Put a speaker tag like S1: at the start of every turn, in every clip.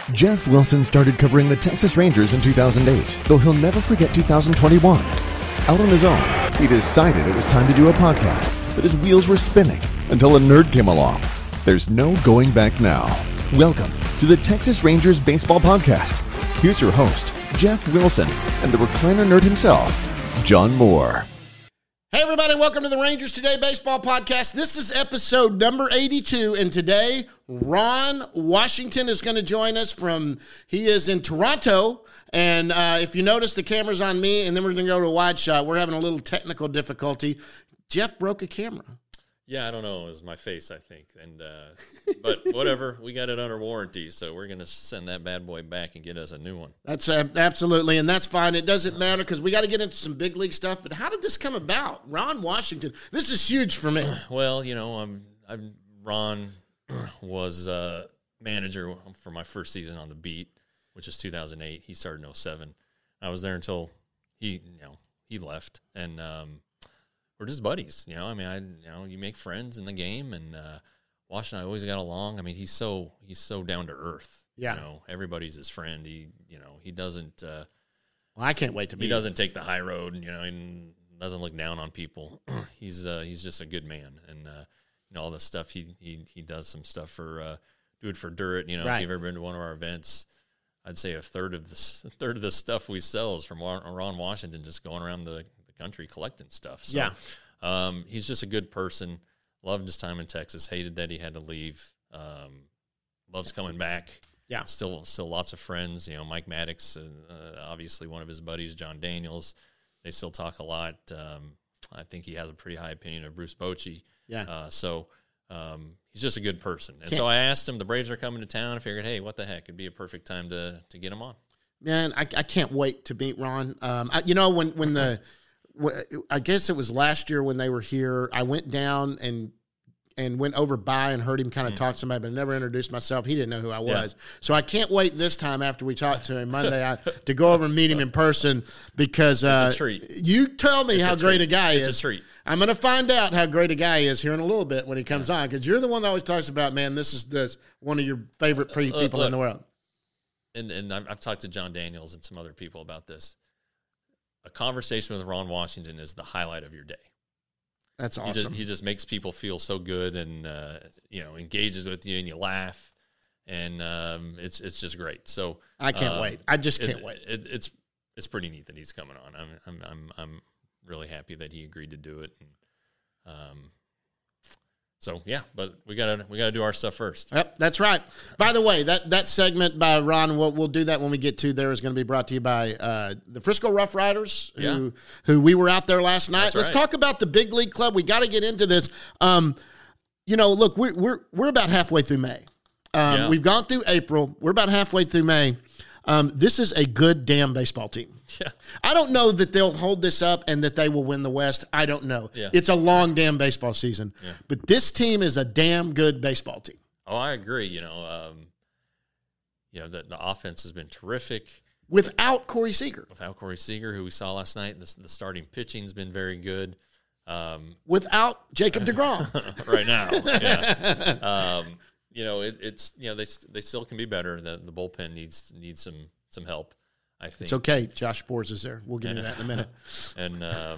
S1: Jeff Wilson started covering the Texas Rangers in 2008, though he'll never forget 2021. Out on his own, he decided it was time to do a podcast, but his wheels were spinning until a nerd came along. There's no going back now. Welcome to the Texas Rangers Baseball Podcast. Here's your host, Jeff Wilson, and the recliner nerd himself, John Moore.
S2: Hey everybody, welcome to the Rangers Today Baseball Podcast. This is episode number 82, and today Ron Washington is going to join us he is in Toronto, and if you notice, the camera's on me, and then we're going to go to a wide shot. We're having a little technical difficulty. Jeff broke a camera.
S3: Yeah, I don't know. It was my face, I think. But whatever. We got it under warranty, so we're going to send that bad boy back and get us a new one.
S2: That's absolutely, and that's fine. It doesn't matter because we got to get into some big league stuff. But how did this come about? Ron Washington. This is huge for me.
S3: Well, you know, Ron was manager for my first season on the beat, which is 2008. He started in 2007. I was there until he left, and we're just buddies, you know. I mean, you make friends in the game, and Wash and I always got along. I mean, he's so down to earth.
S2: Yeah,
S3: you know, everybody's his friend. He doesn't.
S2: Well, I can't wait to meet.
S3: He doesn't take the high road. You know, he doesn't look down on people. He's just a good man, and all the stuff he does some stuff for Do It for Dirt. You know,
S2: right.
S3: If you've ever been to one of our events, I'd say a third of the stuff we sell is from Ron Washington, just going around the country collecting stuff. So,
S2: yeah.
S3: He's just a good person. Loved his time in Texas. Hated that he had to leave. Loves coming back.
S2: Yeah.
S3: Still lots of friends. You know, Mike Maddox, obviously one of his buddies, John Daniels. They still talk a lot. I think he has a pretty high opinion of Bruce Bochy.
S2: Yeah.
S3: He's just a good person. And so I asked him, the Braves are coming to town. I figured, hey, what the heck? It'd be a perfect time to get him on.
S2: Man, I can't wait to meet Ron. I guess it was last year when they were here, I went down and went over by and heard him kind of talk to somebody, but I never introduced myself. He didn't know who I was. Yeah. So I can't wait this time after we talk to him Monday to go over and meet him in person because
S3: it's a treat.
S2: You tell me how great a guy is.
S3: It's a treat.
S2: I'm going to find out how great a guy he is here in a little bit when he comes on, because you're the one that always talks about, man, this is one of your favorite people in the world.
S3: And I've talked to John Daniels and some other people about this. A conversation with Ron Washington is the highlight of your day.
S2: That's awesome.
S3: He just makes people feel so good, and engages with you, and you laugh, and it's just great. So
S2: I can't wait. I just can't wait.
S3: It's pretty neat that he's coming on. I'm really happy that he agreed to do it. And, so yeah, but we gotta do our stuff first.
S2: Yep, that's right. By the way, that segment by Ron, we'll do that when we get to there, is going to be brought to you by the Frisco Rough Riders, who we were out there last night. Let's talk about the Big League Club. We got to get into this. Look, we're about halfway through May. We've gone through April. We're about halfway through May. This is a good damn baseball team.
S3: Yeah.
S2: I don't know that they'll hold this up and that they will win the West. I don't know.
S3: Yeah.
S2: It's a long damn baseball season. Yeah. But this team is a damn good baseball team.
S3: Oh, I agree. The offense has been terrific.
S2: Without Corey Seager.
S3: Who we saw last night. The starting pitching's been very good.
S2: Without Jacob deGrom.
S3: Right now. Yeah. They still can be better. The bullpen needs some help, I think.
S2: It's okay. Josh Boers is there. We'll get into that in a minute.
S3: And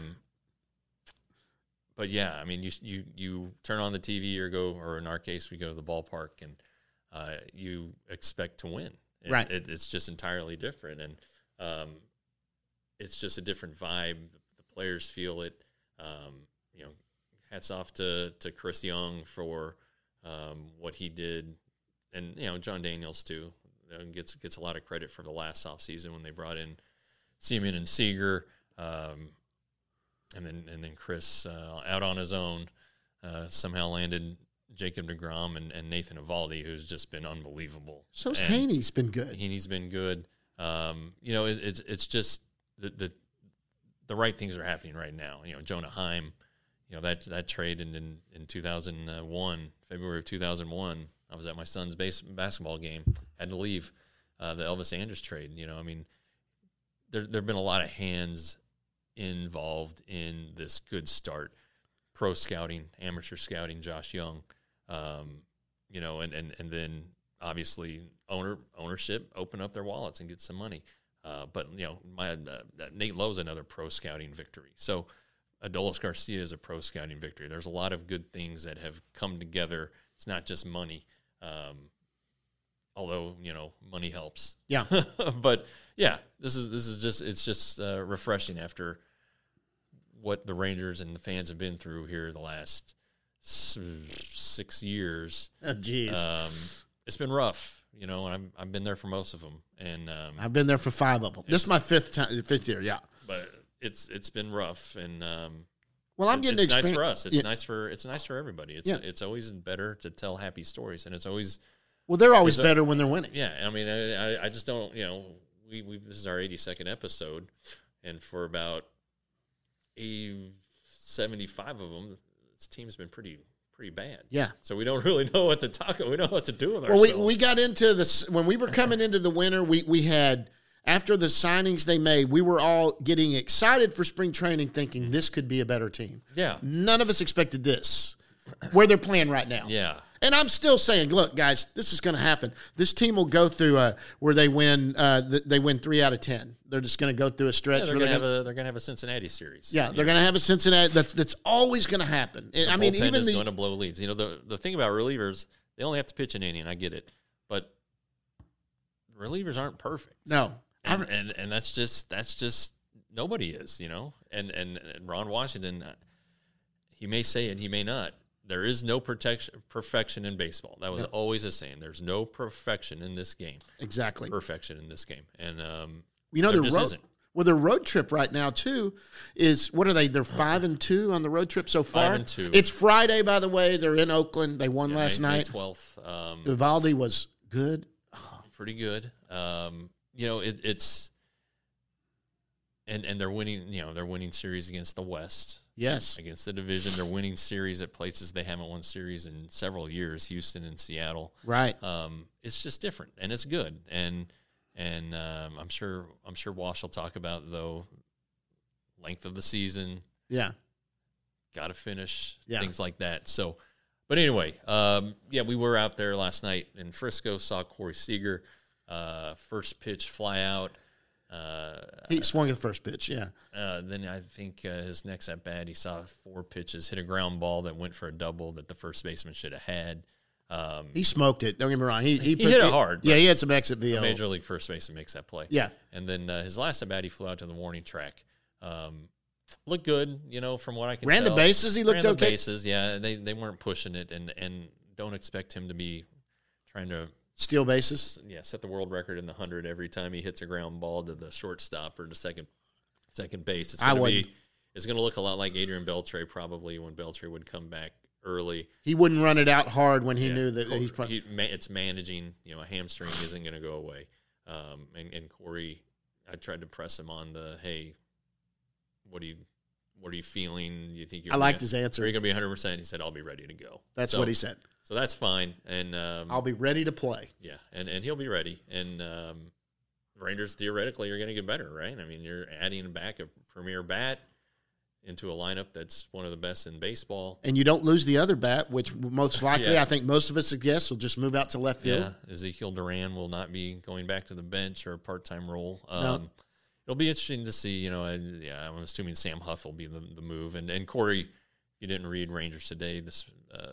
S3: but yeah, I mean, you turn on the TV or in our case, we go to the ballpark, and you expect to win.
S2: Right.
S3: It's just entirely different, and it's just a different vibe. The players feel it. Hats off to Chris Young for what he did, and John Daniels too. Gets a lot of credit for the last offseason when they brought in Seaman and Seager, and then Chris out on his own somehow landed Jacob deGrom and Nathan Eovaldi, who's just been unbelievable.
S2: So's Haney's been good.
S3: Haney's been good. It's just the right things are happening right now. Jonah Heim, that trade in 2001, February of 2001. I was at my son's basketball game. Had to leave the Elvis Andrus trade. There have been a lot of hands involved in this good start. Pro scouting, amateur scouting, Josh Young, and then obviously ownership open up their wallets and get some money. But Nate Lowe's another pro scouting victory. So Adolis Garcia is a pro scouting victory. There's a lot of good things that have come together. It's not just money, although money helps.
S2: Yeah,
S3: but yeah, this is just refreshing after what the Rangers and the fans have been through here the last 6 years. It's been rough, and I've been there for most of them, and
S2: I've been there for 5 of them. This is my fifth year, yeah.
S3: But it's been rough, and
S2: well, I'm getting
S3: it's nice for us. It's nice for everybody. It's always better to tell happy stories, and it's always
S2: they're always better when they're winning.
S3: Yeah, I mean, I just don't. We this is our 82nd episode, and for about 75 of them, this team's been pretty bad.
S2: Yeah.
S3: So we don't really know what to talk about. We don't know what to do with ourselves.
S2: Well, we got into this when we were coming into the winter. We had, after the signings they made, we were all getting excited for spring training, thinking this could be a better team.
S3: Yeah.
S2: None of us expected this, where they're playing right now.
S3: Yeah.
S2: And I'm still saying, look, guys, this is going to happen. This team will go through where they win 3 out of 10. They're just going to go through a stretch.
S3: Yeah, they're going to have a Cincinnati series.
S2: Yeah, they're going to have a Cincinnati. That's always going to happen.
S3: I mean, even is going to blow leads. The thing about relievers, they only have to pitch an inning. I get it, but relievers aren't perfect.
S2: No,
S3: and that's just nobody is. And Ron Washington, he may say it, he may not. There is no perfection in baseball. That was always a saying. There's no perfection in this game.
S2: Exactly.
S3: Perfection in this game. And,
S2: there just isn't. Well, their road trip right now, too, is, what are they? They're 5-2 on the road trip so far. 5-2. It's Friday, by the way. They're in Oakland. They won last night.
S3: May 12th.
S2: Eovaldi was good.
S3: Pretty good. It's and they're winning, they're winning series against the West.
S2: Yes.
S3: Against the division. They're winning series at places they haven't won series in several years, Houston and Seattle.
S2: Right.
S3: It's just different, and it's good. And I'm sure Wash will talk about, though, length of the season.
S2: Yeah.
S3: Got to finish, things like that. So, but anyway, we were out there last night in Frisco, saw Corey Seager, first pitch fly out.
S2: He swung at the first pitch, yeah.
S3: Then I think his next at bat, he saw 4 pitches, hit a ground ball that went for a double that the first baseman should have had.
S2: He smoked it. Don't get me wrong. He
S3: hit it hard.
S2: Yeah, he had some exit VO.
S3: Major league first baseman makes that play.
S2: Yeah.
S3: And then his last at bat, he flew out to the warning track. Looked good, from what I can tell.
S2: Ran the bases. He looked okay.
S3: Ran the bases, yeah. They weren't pushing it, and don't expect him to be trying to
S2: steal bases.
S3: Yeah, set the world record in the 100 every time he hits a ground ball to the shortstop or to second base. It's going to look a lot like Adrian Beltre probably when Beltre would come back early.
S2: He wouldn't run it out hard when he knew that
S3: it's managing. A hamstring isn't going to go away. And Corey, I tried to press him on the, hey, what are you feeling? You think
S2: I liked his answer.
S3: Are you going to be 100%? He said, I'll be ready to go.
S2: That's what he said.
S3: So that's fine. And
S2: I'll be ready to play.
S3: Yeah, and he'll be ready. And Rangers theoretically are going to get better, right? I mean, you're adding back a premier bat into a lineup that's one of the best in baseball.
S2: And you don't lose the other bat, which most likely, I think most of us guess, will just move out to left field.
S3: Yeah, Ezekiel Duran will not be going back to the bench or a part-time role.
S2: No.
S3: It'll be interesting to see, I'm assuming Sam Huff will be the move. And Corey, you didn't read Rangers Today, this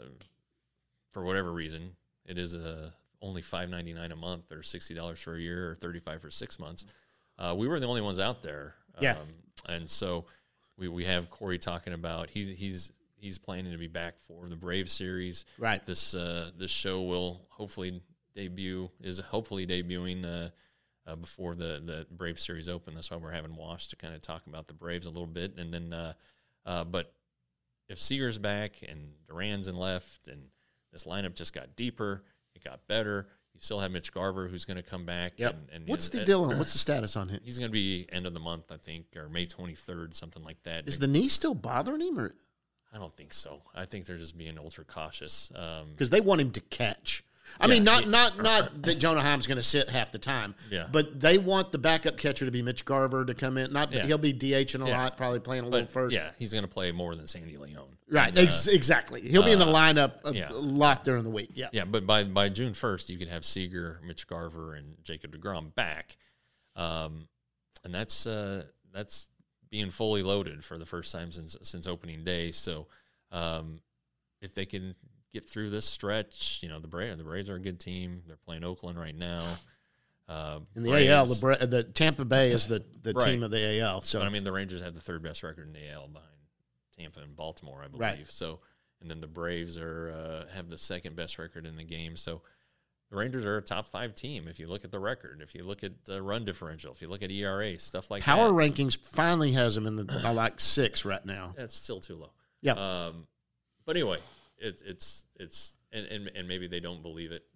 S3: for whatever reason, it is only $5.99 a month or $60 for a year or $35 for 6 months. We were the only ones out there.
S2: Yeah.
S3: And so we have Corey talking about he's planning to be back for the Braves series.
S2: Right.
S3: This show will hopefully debuting before the Braves series open. That's why we're having Wash to kind of talk about the Braves a little bit. And then, but if Seager's back and Duran's in left and this lineup just got deeper, it got better. You still have Mitch Garver who's going to come back.
S2: Yep. What's the deal on? What's the status on him?
S3: He's going to be end of the month, I think, or May 23rd, something like that.
S2: Is the knee still bothering him? Or?
S3: I don't think so. I think they're just being ultra cautious.
S2: Because they want him to catch. I mean, not that Jonah Heim's going to sit half the time.
S3: Yeah.
S2: But they want the backup catcher to be Mitch Garver to come in. He'll be DHing a lot, probably playing a little first.
S3: Yeah, he's going to play more than Sandy Leone.
S2: Right. And, exactly. He'll be in the lineup a lot during the week. Yeah.
S3: Yeah, but by June 1st, you can have Seager, Mitch Garver, and Jacob deGrom back, and that's being fully loaded for the first time since opening day. So, if they can get through this stretch, the Braves are a good team. They're playing Oakland right now.
S2: In the Braves, AL, the Tampa Bay is the team of the AL. So,
S3: but, I mean, the Rangers have the third best record in the AL behind Tampa and Baltimore, I believe.
S2: Right.
S3: So, and then the Braves have the second best record in the game. So, the Rangers are a top 5 team if you look at the record, if you look at run differential, if you look at ERA, stuff like
S2: Power
S3: that.
S2: Rankings finally has them in the 6 right now.
S3: That's still too low.
S2: Yeah.
S3: But anyway, it's and maybe they don't believe it.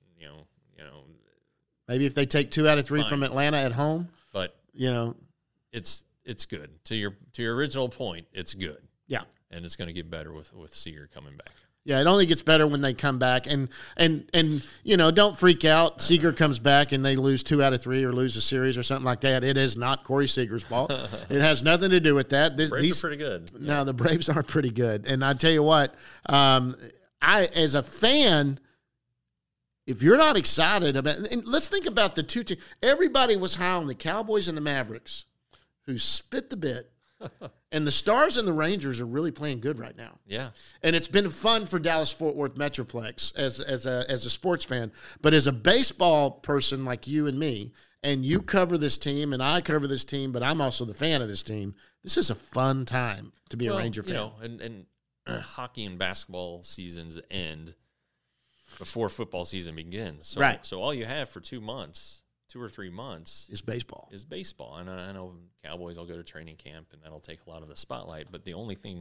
S2: Maybe if they take 2 out of 3 from Atlanta at home,
S3: but it's good. To your original point, it's good.
S2: Yeah,
S3: and it's going to get better with Seager coming back.
S2: Yeah, it only gets better when they come back, and don't freak out. Seager comes back and they lose 2 out of 3 or lose a series or something like that. It is not Corey Seager's fault. It has nothing to do with that.
S3: Braves are pretty good.
S2: No, the Braves are pretty good, and I tell you what, I as a fan, if you're not excited about, and let's think about the two teams. Everybody was high on the Cowboys and the Mavericks, who spit the bit. And the Stars and the Rangers are really playing good right now.
S3: Yeah.
S2: And it's been fun for Dallas-Fort Worth Metroplex as a sports fan. But as a baseball person like you and me, and you cover this team and I cover this team, but I'm also the fan of this team, this is a fun time to be a Ranger fan.
S3: And hockey and basketball seasons end before football season begins. So,
S2: right.
S3: So all you have for 2 months, 2 or 3 months,
S2: is baseball.
S3: And I know Cowboys will go to training camp, and that'll take a lot of the spotlight. But the only thing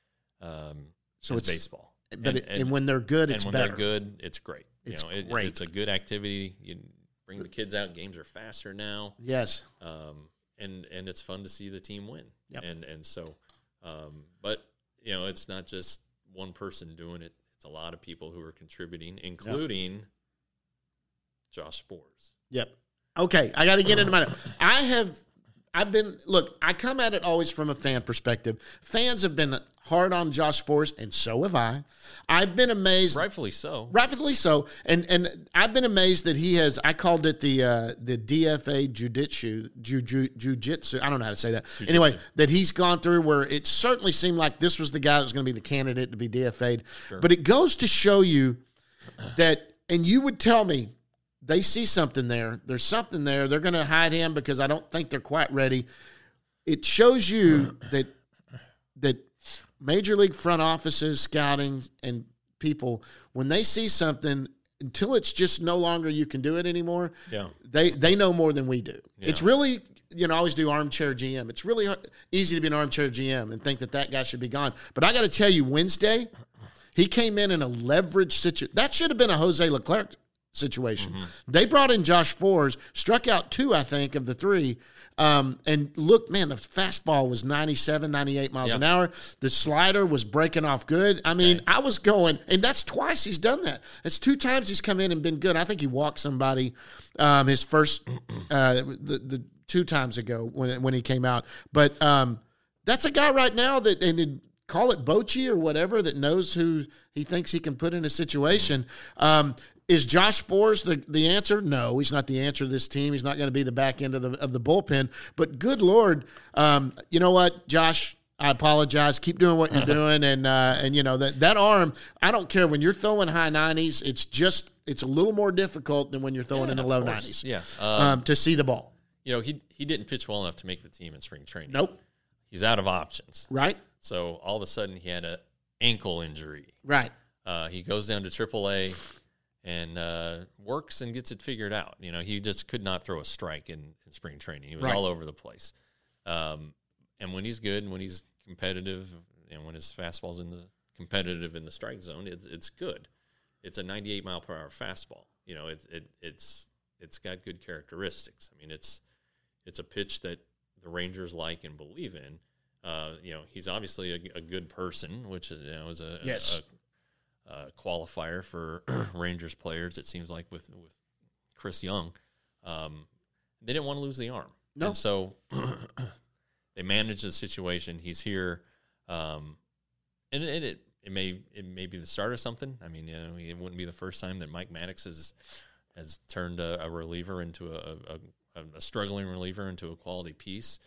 S3: is baseball.
S2: But and when they're good, it's better.
S3: When they're good, it's great.
S2: It's great.
S3: It's a good activity. You bring the kids out. Games are faster now.
S2: Yes.
S3: And it's fun to see the team win.
S2: Yep.
S3: And so, but it's not just one person doing it. It's a lot of people who are contributing, including Josh Sborz.
S2: Yep. Okay, I got to get into my. I come at it always from a fan perspective. Fans have been hard on Josh Sborz, and so have I. I've been amazed.
S3: Rightfully so.
S2: And I've been amazed that he has. I called it the DFA jiu-jitsu. I don't know how to say that.
S3: Jiu-jitsu.
S2: Anyway, that he's gone through where it certainly seemed like this was the guy that was going to be the candidate to be DFA'd.
S3: Sure.
S2: But it goes to show you that, and you would tell me, they see something there. There's something there. They're going to hide him because I don't think they're quite ready. It shows you that major league front offices, scouting, and people, when they see something, until it's just no longer you can do it anymore, they know more than we do. Yeah. It's really, I always do armchair GM. It's really easy to be an armchair GM and think that guy should be gone. But I got to tell you, Wednesday, he came in a leverage situation. That should have been a Jose Leclerc situation. Mm-hmm. They brought in Josh Sborz, struck out 2, I think, of the 3. And look, man, the fastball was 97, 98 miles an hour. The slider was breaking off good. I mean, I was going, and that's twice he's done that. It's 2 times he's come in and been good. I think he walked somebody his first, the 2 times ago when he came out. But that's a guy right now that, and call it Bochy or whatever, that knows who he thinks he can put in a situation. Is Josh Sborz the answer? No, he's not the answer to this team. He's not going to be the back end of the bullpen. But good Lord, you know what, Josh? I apologize. Keep doing what you're doing, and that arm. I don't care when you're throwing high 90s. It's a little more difficult than when you're throwing in the low 90s.
S3: Yeah,
S2: to see the ball.
S3: He didn't pitch well enough to make the team in spring training.
S2: Nope.
S3: He's out of options.
S2: Right.
S3: So all of a sudden he had an ankle injury.
S2: Right.
S3: He goes down to AAA. And works and gets it figured out. He just could not throw a strike in spring training. He was all over the place. And when he's good and when he's competitive and when his fastball's competitive in the strike zone, it's good. It's a 98 mile per hour fastball. It's got good characteristics. I mean, it's a pitch that the Rangers like and believe in. He's obviously a good person, which is qualifier for Rangers players. It seems like with Chris Young, they didn't want to lose the arm,
S2: no.
S3: And so they managed the situation. He's here, and it may be the start of something. I mean, it wouldn't be the first time that Mike Maddox has turned a reliever into a struggling reliever into a quality piece.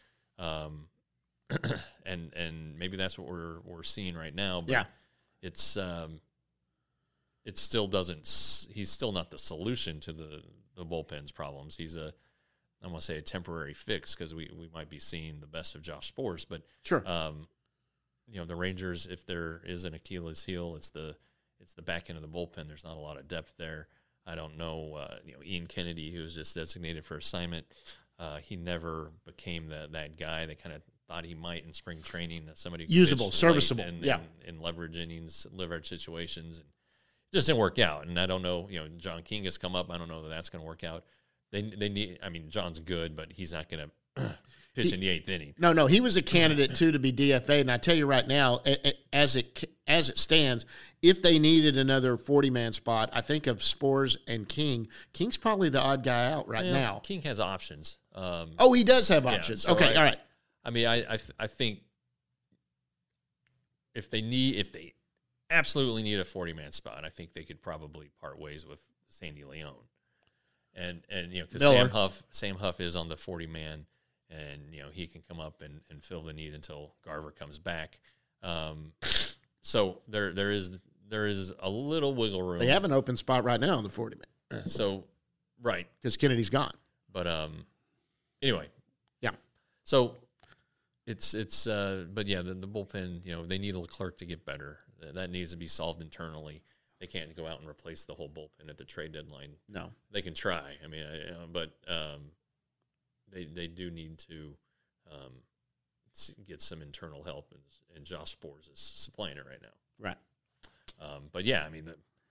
S3: And maybe that's what we're seeing right now. But it's it still doesn't. He's still not the solution to the bullpen's problems. He's I want to say a temporary fix because we might be seeing the best of Josh Sborz. But
S2: sure,
S3: the Rangers, if there is an Achilles heel, it's the back end of the bullpen. There's not a lot of depth there. I don't know. Ian Kennedy, who was just designated for assignment, he never became that guy. They kind of thought he might in spring training, somebody
S2: usable, serviceable,
S3: in leverage innings, leverage situations, and it just didn't work out. And I don't know, John King has come up. I don't know that that's going to work out. They need. I mean, John's good, but he's not going to pitch in the eighth inning.
S2: No, he was a candidate too to be DFA. And I tell you right now, as it stands, if they needed another 40-man spot, I think of Sborz and King. King's probably the odd guy out right now.
S3: King has options.
S2: He does have options.
S3: So
S2: okay, all right.
S3: I mean, I think if they absolutely need a 40-man spot, I think they could probably part ways with Sandy Leon, and because Sam Huff is on the 40-man, and he can come up and fill the need until Garver comes back. So there is a little wiggle room.
S2: They have an open spot right now on the 40-man.
S3: So right,
S2: because Kennedy's gone.
S3: But anyway,
S2: yeah.
S3: So. But yeah, the bullpen, they need Leclerc to get better. That needs to be solved internally. They can't go out and replace the whole bullpen at the trade deadline.
S2: No.
S3: They can try. I mean, but they do need to get some internal help, and Josh Sborz is supplying it right now.
S2: Right.
S3: But yeah, I mean,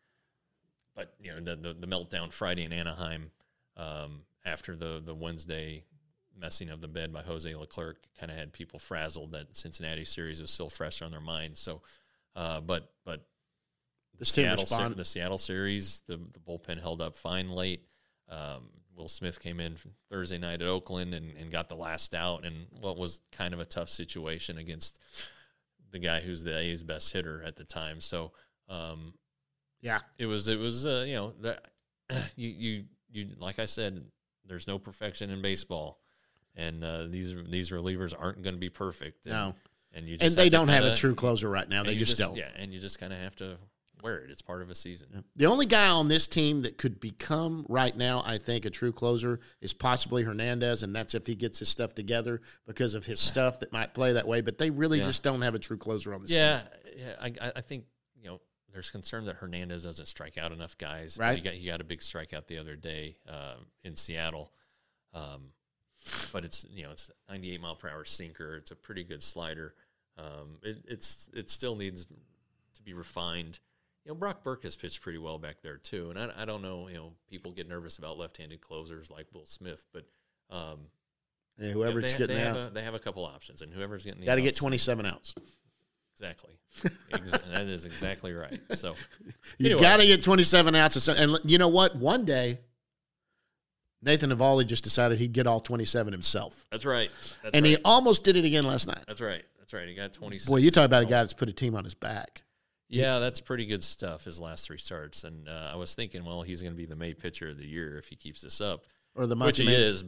S3: the meltdown Friday in Anaheim after the Wednesday messing of the bed by Jose Leclerc kind of had people frazzled. That Cincinnati series was still fresh on their minds. So, but the Seattle series, the bullpen held up fine late. Will Smith came in Thursday night at Oakland and got the last out in what was kind of a tough situation against the guy who's the A's best hitter at the time. So, it was that you like I said, there's no perfection in baseball. And these relievers aren't going to be perfect.
S2: No.
S3: And
S2: they don't have a true closer right now. They just don't.
S3: Yeah, and you just kind of have to wear it. It's part of a season. Yeah.
S2: The only guy on this team that could become right now, I think, a true closer is possibly Hernandez, and that's if he gets his stuff together because of his stuff that might play that way. But they really just don't have a true closer on this team.
S3: Yeah, I think, there's concern that Hernandez doesn't strike out enough guys.
S2: Right.
S3: He got a big strikeout the other day in Seattle. But it's it's a 98-mile-per-hour sinker. It's a pretty good slider. It still needs to be refined. Brock Burke has pitched pretty well back there too, and I don't know. People get nervous about left-handed closers like Will Smith, but
S2: whoever's getting out,
S3: they have a couple options, and whoever's getting the
S2: got to get 27 outs.
S3: Exactly, that is exactly right. So
S2: you got to get 27 outs, and you know what? One day. Nathan Eovaldi just decided he'd get all 27 himself.
S3: That's right.
S2: He almost did it again last night.
S3: That's right. He got 26.
S2: Boy, you talk about a guy that's put a team on his back.
S3: Yeah, that's pretty good stuff, his last three starts. And I was thinking, well, he's going to be the May pitcher of the year if he keeps this up.
S2: Or the month
S3: which
S2: of May.
S3: He is,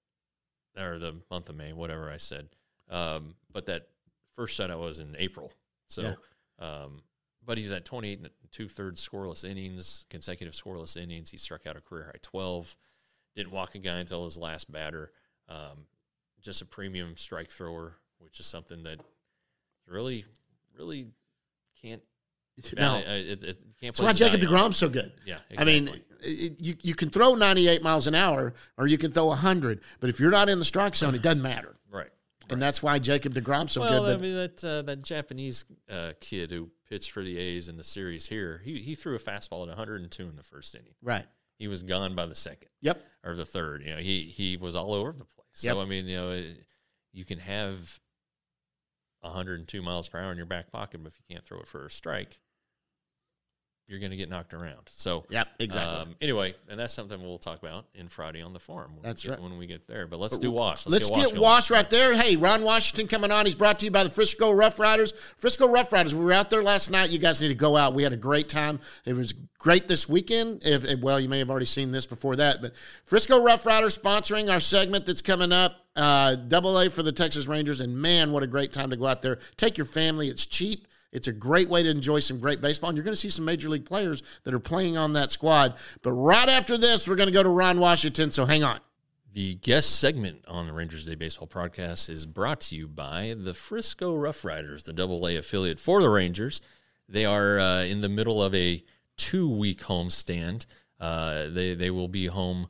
S3: or the month of May, whatever I said. But that first shutout was in April. So, but he's at 28 and 2/3 scoreless innings, consecutive scoreless innings. He struck out a career high 12. Didn't walk a guy until his last batter. Just a premium strike thrower, which is something that really, really can't.
S2: No,
S3: that's
S2: why Jacob deGrom's so good.
S3: Yeah, exactly.
S2: I mean, you can throw 98 miles an hour or you can throw 100, but if you're not in the strike zone, it doesn't matter.
S3: Right.
S2: And that's why Jacob deGrom's so good.
S3: Well, I mean, that Japanese kid who pitched for the A's in the series here, he threw a fastball at 102 in the first inning.
S2: Right.
S3: He was gone by the second.
S2: Yep.
S3: Or the third. He was all over the place.
S2: Yep.
S3: So, I mean, you can have 102 miles per hour in your back pocket, but if you can't throw it for a strike, you're going to get knocked around. So,
S2: yep, exactly.
S3: Anyway, and that's something we'll talk about in Friday on the Forum. When we get there. But let's do Wash.
S2: Let's get Wash right there. Hey, Ron Washington coming on. He's brought to you by the Frisco Rough Riders. Frisco Rough Riders, we were out there last night. You guys need to go out. We had a great time. It was great this weekend. Well, you may have already seen this before that, but Frisco Rough Riders sponsoring our segment that's coming up, AA for the Texas Rangers, and man, what a great time to go out there. Take your family. It's cheap. It's a great way to enjoy some great baseball, and you're going to see some Major League players that are playing on that squad. But right after this, we're going to go to Ron Washington, so hang on.
S3: The guest segment on the Rangers Day Baseball podcast is brought to you by the Frisco Rough Riders, the AA affiliate for the Rangers. They are in the middle of a 2-week homestand. They will be home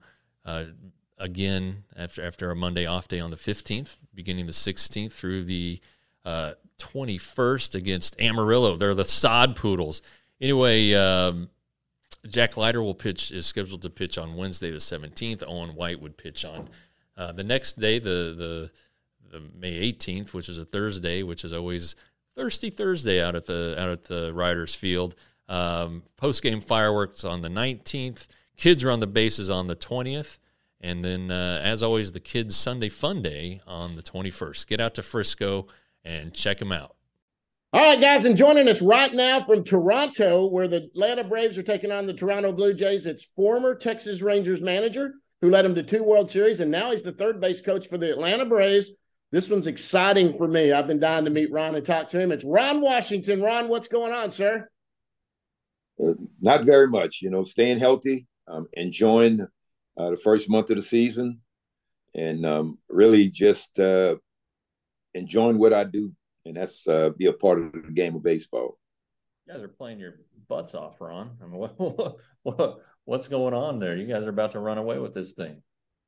S3: again after a Monday off day on the 15th, beginning the 16th through the 21st against Amarillo. They're the Sod Poodles. Anyway, Jack Leiter is scheduled to pitch on Wednesday the 17th. Owen White would pitch on the next day, the May 18th, which is a Thursday, which is always Thirsty Thursday out at the Riders Field. Post-game fireworks on the 19th. Kids are on the bases on the 20th. And then, as always, the Kids Sunday Fun Day on the 21st. Get out to Frisco and check them out.
S2: All right, guys, and joining us right now from Toronto, where the Atlanta Braves are taking on the Toronto Blue Jays, it's former Texas Rangers manager who led them to 2 World Series, and now he's the third base coach for the Atlanta Braves. This one's exciting for me. I've been dying to meet Ron and talk to him. It's Ron Washington. Ron, what's going on, sir?
S4: Not very much. Staying healthy, enjoying the first month of the season, and really just enjoying what I do, and that's be a part of the game of baseball.
S3: You guys are playing your butts off, Ron. I mean, what's going on there? You guys are about to run away with this thing.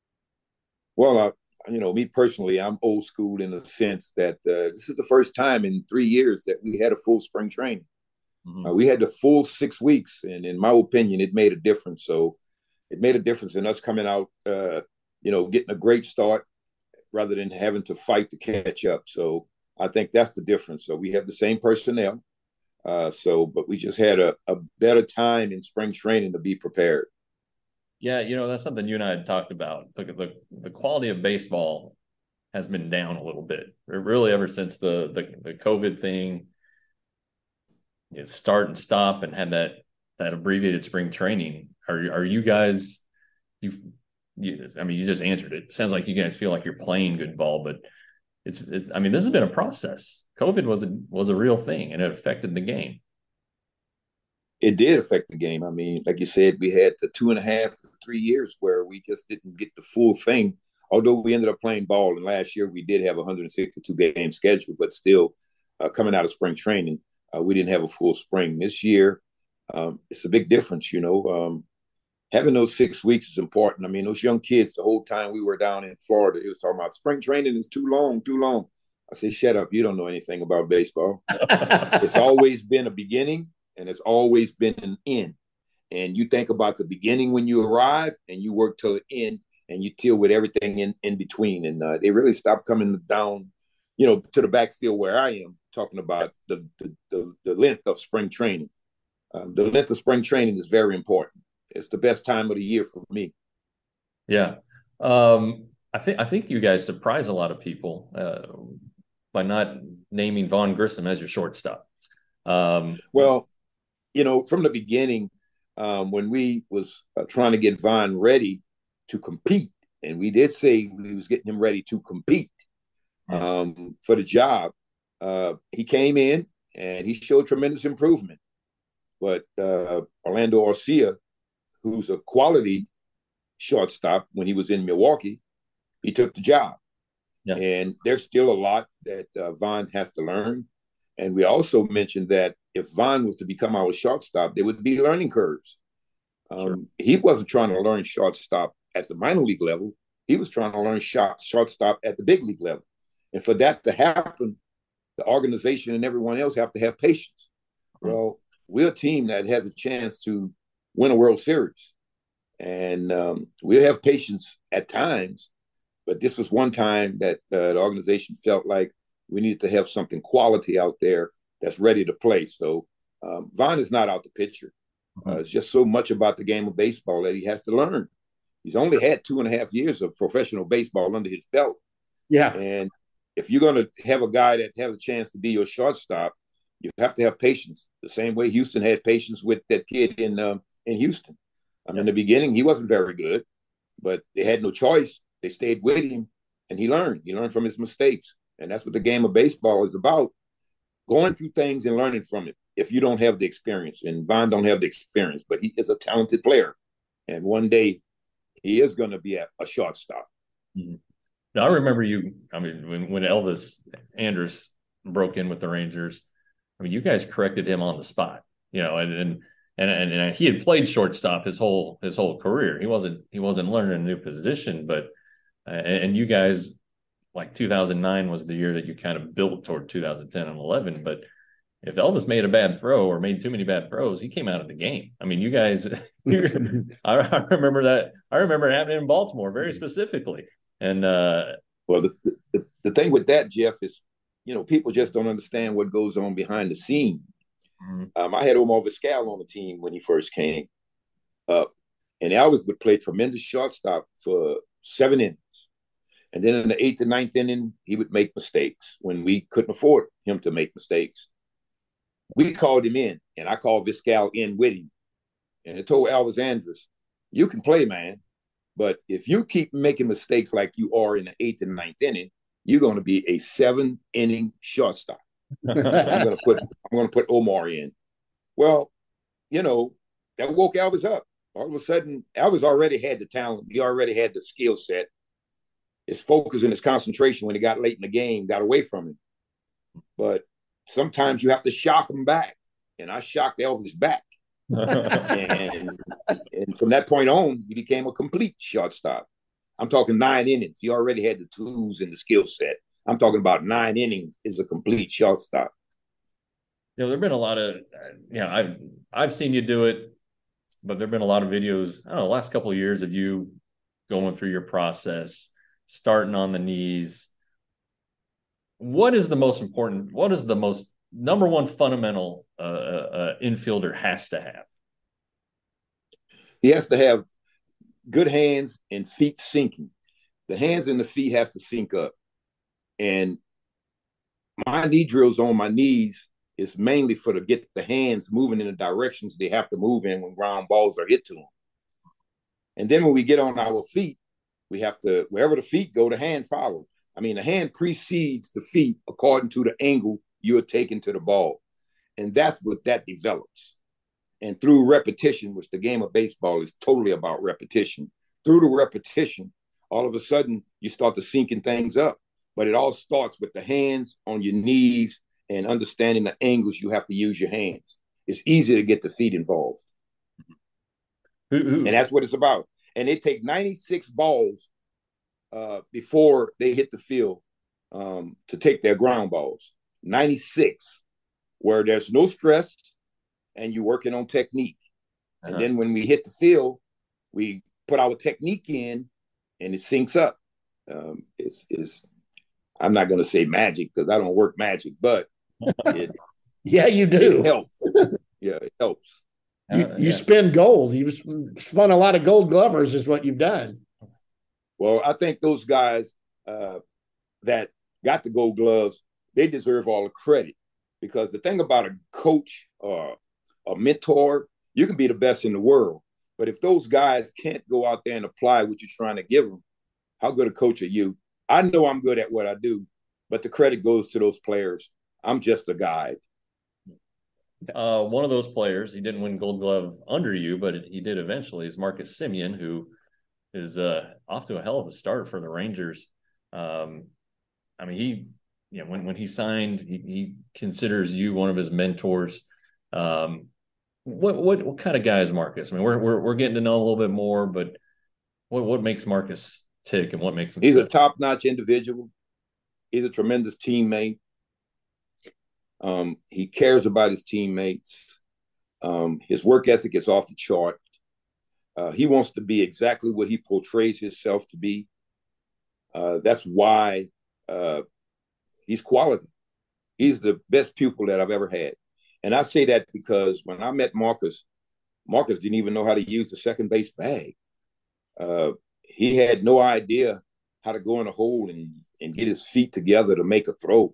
S4: Well, me personally, I'm old school in the sense that this is the first time in 3 years that we had a full spring training. Mm-hmm. We had the full 6 weeks, and in my opinion, it made a difference. So it made a difference in us coming out, getting a great start rather than having to fight to catch up. So I think that's the difference. So we have the same personnel, but we just had a better time in spring training to be prepared.
S3: Yeah, that's something you and I had talked about. The quality of baseball has been down a little bit, really, ever since the COVID thing. Start and stop and have that abbreviated spring training. Are you guys? You just answered it. It sounds like you guys feel like you're playing good ball, but it's. This has been a process. COVID was a real thing, and it affected the game.
S4: It did affect the game. Like you said, we had the 2.5 to 3 years where we just didn't get the full thing. Although we ended up playing ball, and last year we did have a 162 game schedule, but still, coming out of spring training, we didn't have a full spring. This year, it's a big difference. Having those 6 weeks is important. Those young kids, the whole time we were down in Florida, it was talking about spring training is too long. I said, shut up. You don't know anything about baseball. It's always been a beginning, and it's always been an end. And you think about the beginning when you arrive, and you work till the end, and you deal with everything in between. And they really stopped coming down, to the backfield where I am, talking about the length of spring training. The length of spring training is very important. It's the best time of the year for me.
S3: Yeah. I think you guys surprise a lot of people by not naming Vaughn Grissom as your shortstop.
S4: From the beginning, when we was trying to get Vaughn ready to compete, and we did say we was getting him ready to compete for the job, he came in and he showed tremendous improvement. But Orlando Arcia, who's a quality shortstop when he was in Milwaukee, he took the job. Yeah. And there's still a lot that Vaughn has to learn. And we also mentioned that if Vaughn was to become our shortstop, there would be learning curves. Sure. He wasn't trying to learn shortstop at the minor league level. He was trying to learn shortstop at the big league level. And for that to happen, the organization and everyone else have to have patience. Mm-hmm. Well, we're a team that has a chance to win a World Series. And we'll have patience at times, but this was one time that the organization felt like we needed to have something quality out there that's ready to play. So Vaughn is not out the picture. It's just so much about the game of baseball that he has to learn. He's only had 2.5 years of professional baseball under his belt.
S2: Yeah.
S4: And if you're going to have a guy that has a chance to be your shortstop, you have to have patience. The same way Houston had patience with that kid in Houston. In the beginning, he wasn't very good, but they had no choice. They stayed with him, and he learned. He learned from his mistakes. And that's what the game of baseball is about, going through things and learning from it if you don't have the experience. And Vaughn don't have the experience, but he is a talented player. And one day he is going to be a shortstop.
S3: Mm-hmm. Now, I remember when Elvis Andrus broke in with the Rangers, you guys corrected him on the spot, and he had played shortstop his whole career. He wasn't learning a new position, but and you guys, like 2009 was the year that you kind of built toward 2010 and 11. But if Elvis made a bad throw or made too many bad throws, he came out of the game. You guys, I remember that. I remember it happening in Baltimore very specifically. And
S4: well, the thing with that, Jeff, is people just don't understand what goes on behind the scene. Mm-hmm. I had Omar Vizquel on the team when he first came up, and Elvis would play tremendous shortstop for 7 innings. And then in the 8th and 9th inning, he would make mistakes when we couldn't afford him to make mistakes. We called him in, and I called Vizquel in with him. And I told Elvis Andrus, you can play, man, but if you keep making mistakes like you are in the 8th and 9th inning, you're going to be a 7-inning shortstop. I'm going to put Omar in. Well, that woke Elvis up. All of a sudden, Elvis already had the talent. He already had the skill set. His focus and his concentration when he got late in the game got away from him. But sometimes you have to shock him back. And I shocked Elvis back. and from that point on, he became a complete shortstop. I'm talking 9 innings. He already had the tools and the skill set. I'm talking about 9 innings is a complete shortstop.
S3: There have been a lot of, I've seen you do it, but there have been a lot of videos, I don't know, the last couple of years of you going through your process, starting on the knees. What is the most important, what is the most number one fundamental infielder has to have?
S4: He has to have good hands and feet sinking. The hands and the feet has to sync up. And my knee drills on my knees is mainly to get the hands moving in the directions they have to move in when ground balls are hit to them. And then when we get on our feet, we have to, wherever the feet go, the hand follows. The hand precedes the feet according to the angle you're taking to the ball. And that's what that develops. And through repetition, which the game of baseball is totally about repetition, through the repetition, all of a sudden you start to syncing things up. But it all starts with the hands on your knees and understanding the angles you have to use your hands. It's easy to get the feet involved. And that's what it's about. And they take 96 balls before they hit the field to take their ground balls. 96, where there's no stress and you're working on technique. Uh-huh. And then when we hit the field, we put our technique in and it syncs up. It's I'm not going to say magic because I don't work magic, but it,
S2: yeah, you do.
S4: It helps. Yeah, it helps.
S2: You spin gold. You spun a lot of gold glovers is what you've done.
S4: Well, I think those guys that got the gold gloves, they deserve all the credit because the thing about a coach or a mentor, you can be the best in the world. But if those guys can't go out there and apply what you're trying to give them, how good a coach are you? I know I'm good at what I do, but the credit goes to those players. I'm just a guide.
S3: One of those players, he didn't win Gold Glove under you, but he did eventually, is Marcus Semien, who is off to a hell of a start for the Rangers. He, when he signed, he considers you one of his mentors. What kind of guy is Marcus? We're getting to know him a little bit more, but what makes Marcus tick and what makes him?
S4: He's a top-notch individual. He's a tremendous teammate. He cares about his teammates. His work ethic is off the chart. He wants to be exactly what he portrays himself to be. That's why he's quality. He's the best pupil that I've ever had. And I say that because when I met Marcus Marcus didn't even know how to use the second base bag. He had no idea how to go in a hole and get his feet together to make a throw.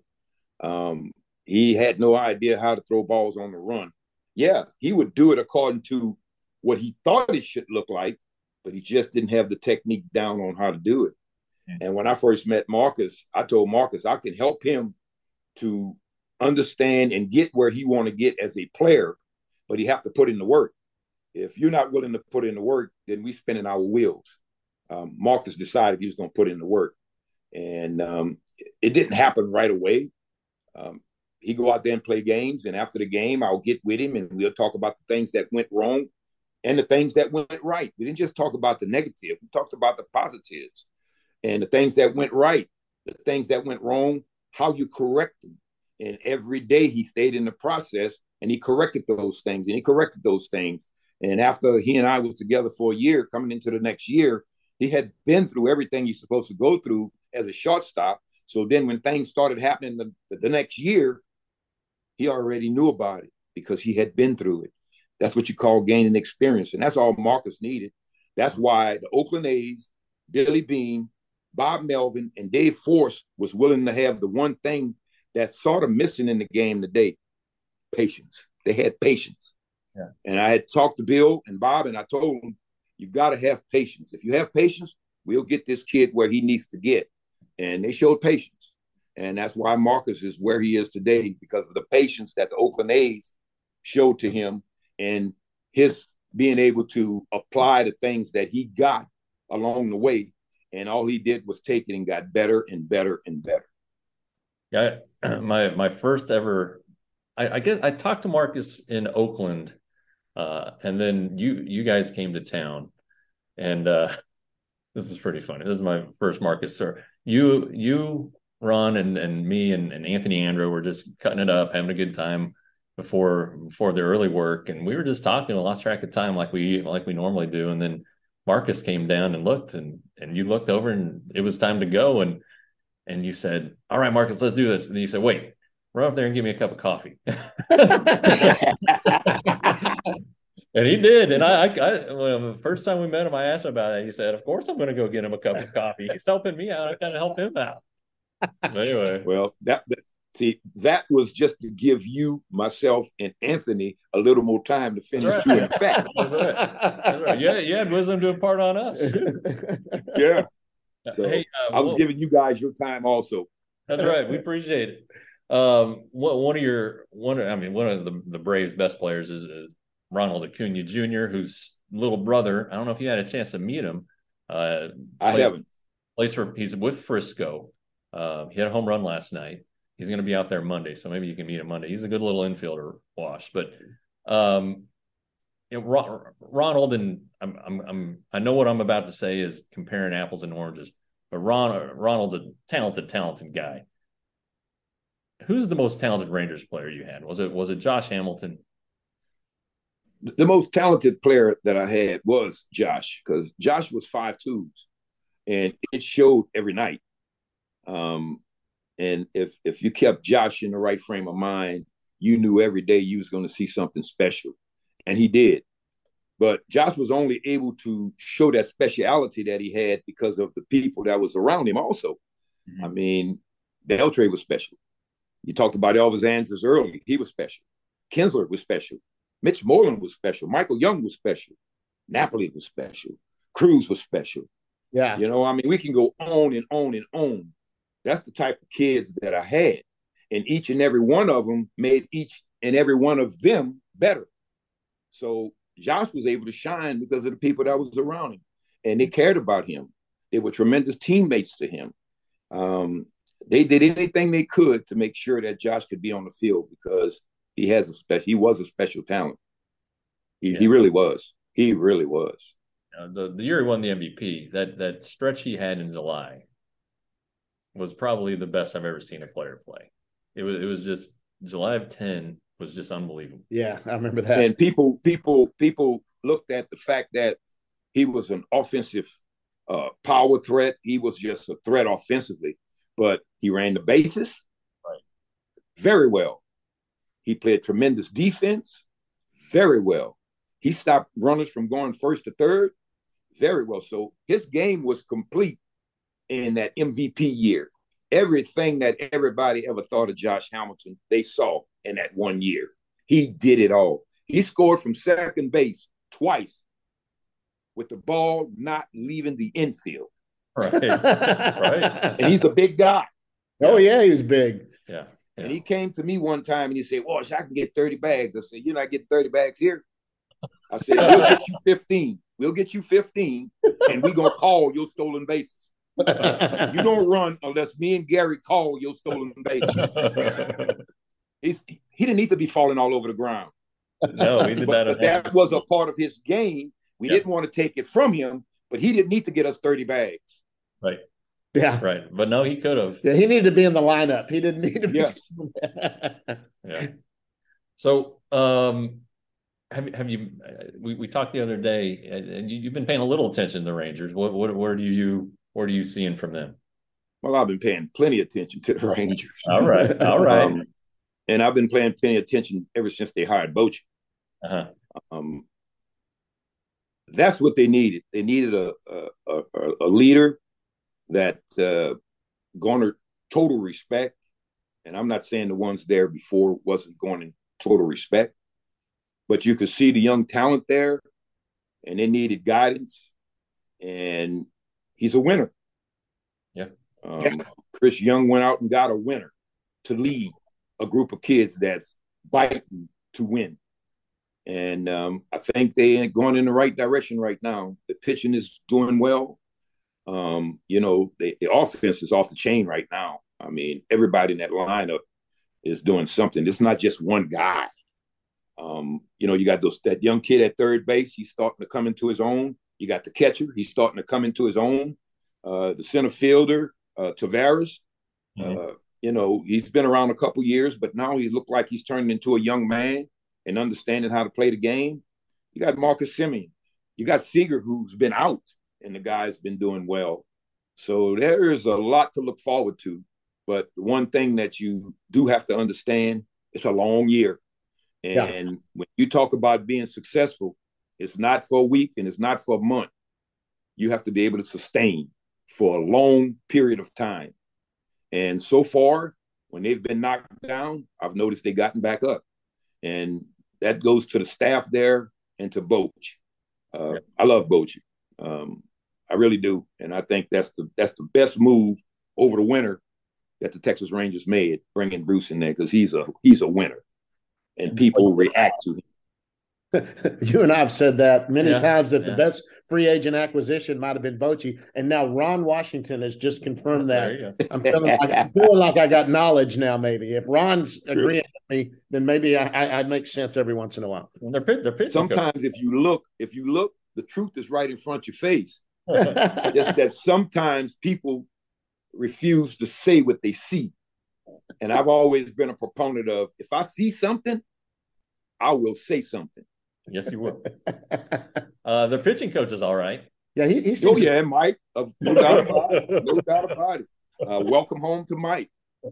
S4: He had no idea how to throw balls on the run. Yeah, he would do it according to what he thought it should look like, but he just didn't have the technique down on how to do it. And when I first met Marcus, I told Marcus I can help him to understand and get where he want to get as a player, but he have to put in the work. If you're not willing to put in the work, then we spinning our wheels. Marcus decided he was going to put in the work, and it didn't happen right away. He go out there and play games, and after the game, I'll get with him and we'll talk about the things that went wrong and the things that went right. We didn't just talk about the negative; we talked about the positives and the things that went right, the things that went wrong, how you correct them. And every day he stayed in the process and he corrected those things and he corrected those things. And after he and I was together for a year, coming into the next year, he had been through everything you're supposed to go through as a shortstop. So then when things started happening the next year, he already knew about it because he had been through it. That's what you call gaining experience. And that's all Marcus needed. That's why the Oakland A's, Billy Beane, Bob Melvin, and Dave Force was willing to have the one thing that's sort of missing in the game today, patience. They had patience. Yeah. And I had talked to Bill and Bob, and I told them, you got to have patience. If you have patience, we'll get this kid where he needs to get. And they showed patience. And that's why Marcus is where he is today, because of the patience that the Oakland A's showed to him and his being able to apply the things that he got along the way. And all he did was take it and got better and better and better.
S3: Yeah, my first ever, I guess I talked to Marcus in Oakland, and then you guys came to town, and this is pretty funny. This is my first Marcus, sir. You, Ron, and me and Anthony Andrew were just cutting it up, having a good time before the early work, and we were just talking, lost track of time like we normally do, and then Marcus came down and looked, and you looked over, and it was time to go, and you said, "All right, Marcus, let's do this." And then you said, "Wait, run up there and give me a cup of coffee." And he did. And well, the first time we met him, I asked him about it. He said, "Of course, I'm going to go get him a cup of coffee. He's helping me out. I got to help him out." But anyway,
S4: well, that was just to give you, myself, and Anthony a little more time to finish chewing fat.
S3: That's right. Yeah, you had wisdom to impart on us.
S4: Yeah. So hey, I was giving you guys your time also.
S3: That's right. We appreciate it. One of the Braves' best players is Ronald Acuna Jr., whose little brother. I don't know if you had a chance to meet him.
S4: I haven't.
S3: He's with Frisco. He had a home run last night. He's going to be out there Monday, so maybe you can meet him Monday. He's a good little infielder, Wash. But Ronald, and I know what I'm about to say is comparing apples and oranges, but Ronald's a talented guy. Who's the most talented Rangers player you had? Was it Josh Hamilton?
S4: The most talented player that I had was Josh, because Josh was 5'2", and it showed every night. And if you kept Josh in the right frame of mind, you knew every day you was going to see something special. And he did. But Josh was only able to show that speciality that he had because of the people that was around him also. Mm-hmm. I mean, Beltre was special. You talked about Elvis Andrus earlier. He was special. Kinsler was special. Mitch Moreland was special. Michael Young was special. Napoli was special. Cruz was special.
S2: Yeah.
S4: You know, I mean, we can go on and on and on. That's the type of kids that I had. And each and every one of them made each and every one of them better. So Josh was able to shine because of the people that was around him. And they cared about him. They were tremendous teammates to him. They did anything they could to make sure that Josh could be on the field because he was a special talent. He really was. He really was.
S3: The year he won the MVP, that stretch he had in July was probably the best I've ever seen a player play. It was just July of 10 was just unbelievable.
S2: Yeah, I remember that.
S4: And people looked at the fact that he was an offensive power threat. He was just a threat offensively, but he ran the bases very well. He played tremendous defense very well. He stopped runners from going first to third very well. So his game was complete in that MVP year. Everything that everybody ever thought of Josh Hamilton, they saw in that 1 year. He did it all. He scored from second base twice with the ball not leaving the infield.
S3: Right. Right.
S4: And he's a big guy.
S2: Oh, yeah, he was big.
S3: Yeah.
S4: And he came to me one time and he said, "Well, I can get 30 bags." I said, "You're not getting 30 bags here." I said, "We'll get you 15. We'll get you 15, and we're going to call your stolen bases. You don't run unless me and Gary call your stolen bases." He didn't need to be falling all over the ground.
S3: No, he did
S4: but that was a part of his game. We didn't want to take it from him, but he didn't need to get us 30 bags.
S3: Right.
S2: Yeah.
S3: Right. But no, he could have.
S2: Yeah, he needed to be in the lineup. He didn't need to be.
S4: Yes.
S3: Yeah. So, have you? We talked the other day, and you've been paying a little attention to the Rangers. What are you seeing from them?
S4: Well, I've been paying plenty of attention to the Rangers.
S3: All right. All right.
S4: And I've been paying plenty of attention ever since they hired Bochy.
S3: Uh-huh.
S4: That's what they needed. They needed a leader that garnered total respect. And I'm not saying the ones there before wasn't garnering total respect, but you could see the young talent there, and they needed guidance. And he's a winner.
S3: Yeah.
S4: Chris Young went out and got a winner to lead a group of kids that's biting to win. And I think they're going in the right direction right now. The pitching is doing well. The offense is off the chain right now. I mean, everybody in that lineup is doing something. It's not just one guy. You got that young kid at third base. He's starting to come into his own. You got the catcher. He's starting to come into his own. The center fielder, Tavares. Mm-hmm. He's been around a couple years, but now he looked like he's turning into a young man and understanding how to play the game. You got Marcus Semien. You got Seager, who's been out, and the guy's been doing well. So there is a lot to look forward to. But the one thing that you do have to understand, it's a long year. And when you talk about being successful, it's not for a week and it's not for a month. You have to be able to sustain for a long period of time. And so far, when they've been knocked down, I've noticed they've gotten back up. And that goes to the staff there and to Bochy. I love Bochy. I really do. And I think that's the best move over the winter that the Texas Rangers made, bringing Bruce in there, because he's a winner. And people react to him.
S2: You and I have said that many times that the best free agent acquisition might have been Bochy, and now Ron Washington has just confirmed that. I'm feeling like I got knowledge now. Maybe if Ron's agreeing with me, then maybe I make sense every once in a while.
S3: They're pitching.
S4: Sometimes if you look, the truth is right in front of your face. Just that sometimes people refuse to say what they see. And I've always been a proponent of, if I see something, I will say something.
S3: Yes, you will. Their pitching coach is all right.
S2: Yeah, he's
S4: Mike. No doubt about it. No doubt about it. Welcome home to Mike.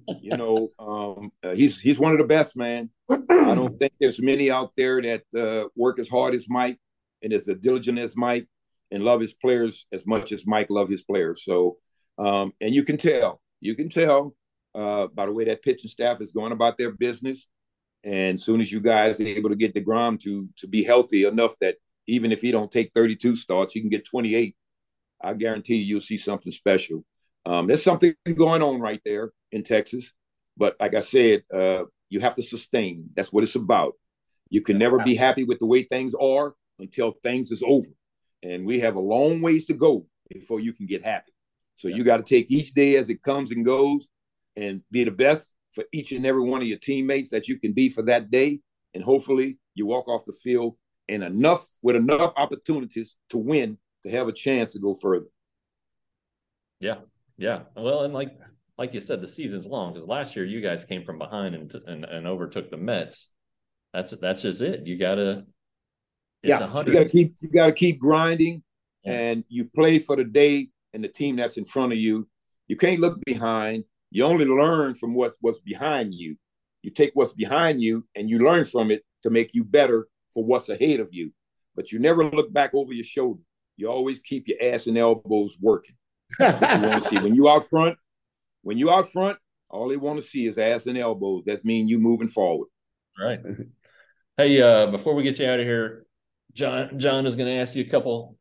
S4: He's one of the best, man. I don't think there's many out there that work as hard as Mike and as diligent as Mike and love his players as much as Mike loved his players. So, and you can tell by the way that pitching staff is going about their business. And as soon as you guys are able to get DeGrom to be healthy enough that even if he don't take 32 starts, he can get 28, I guarantee you'll see something special. There's something going on right there in Texas. But like I said, you have to sustain. That's what it's about. You can never be happy with the way things are until things is over. And we have a long ways to go before you can get happy. So you got to take each day as it comes and goes and be the best for each and every one of your teammates that you can be for that day. And hopefully you walk off the field with enough opportunities to win, to have a chance to go further.
S3: Yeah. Yeah. Well, and like you said, the season's long, because last year you guys came from behind and overtook the Mets. That's just it. You gotta, it's 100.
S4: You gotta keep grinding, and you play for the day and the team that's in front of you. You can't look behind. You only learn from what's behind you. You take what's behind you and you learn from it to make you better for what's ahead of you. but you never look back over your shoulder. You always keep your ass and elbows working. That's what you want to see. When you out front, all they want to see is ass and elbows. That means you moving forward.
S3: Right. Hey, before we get you out of here, John is going to ask you a couple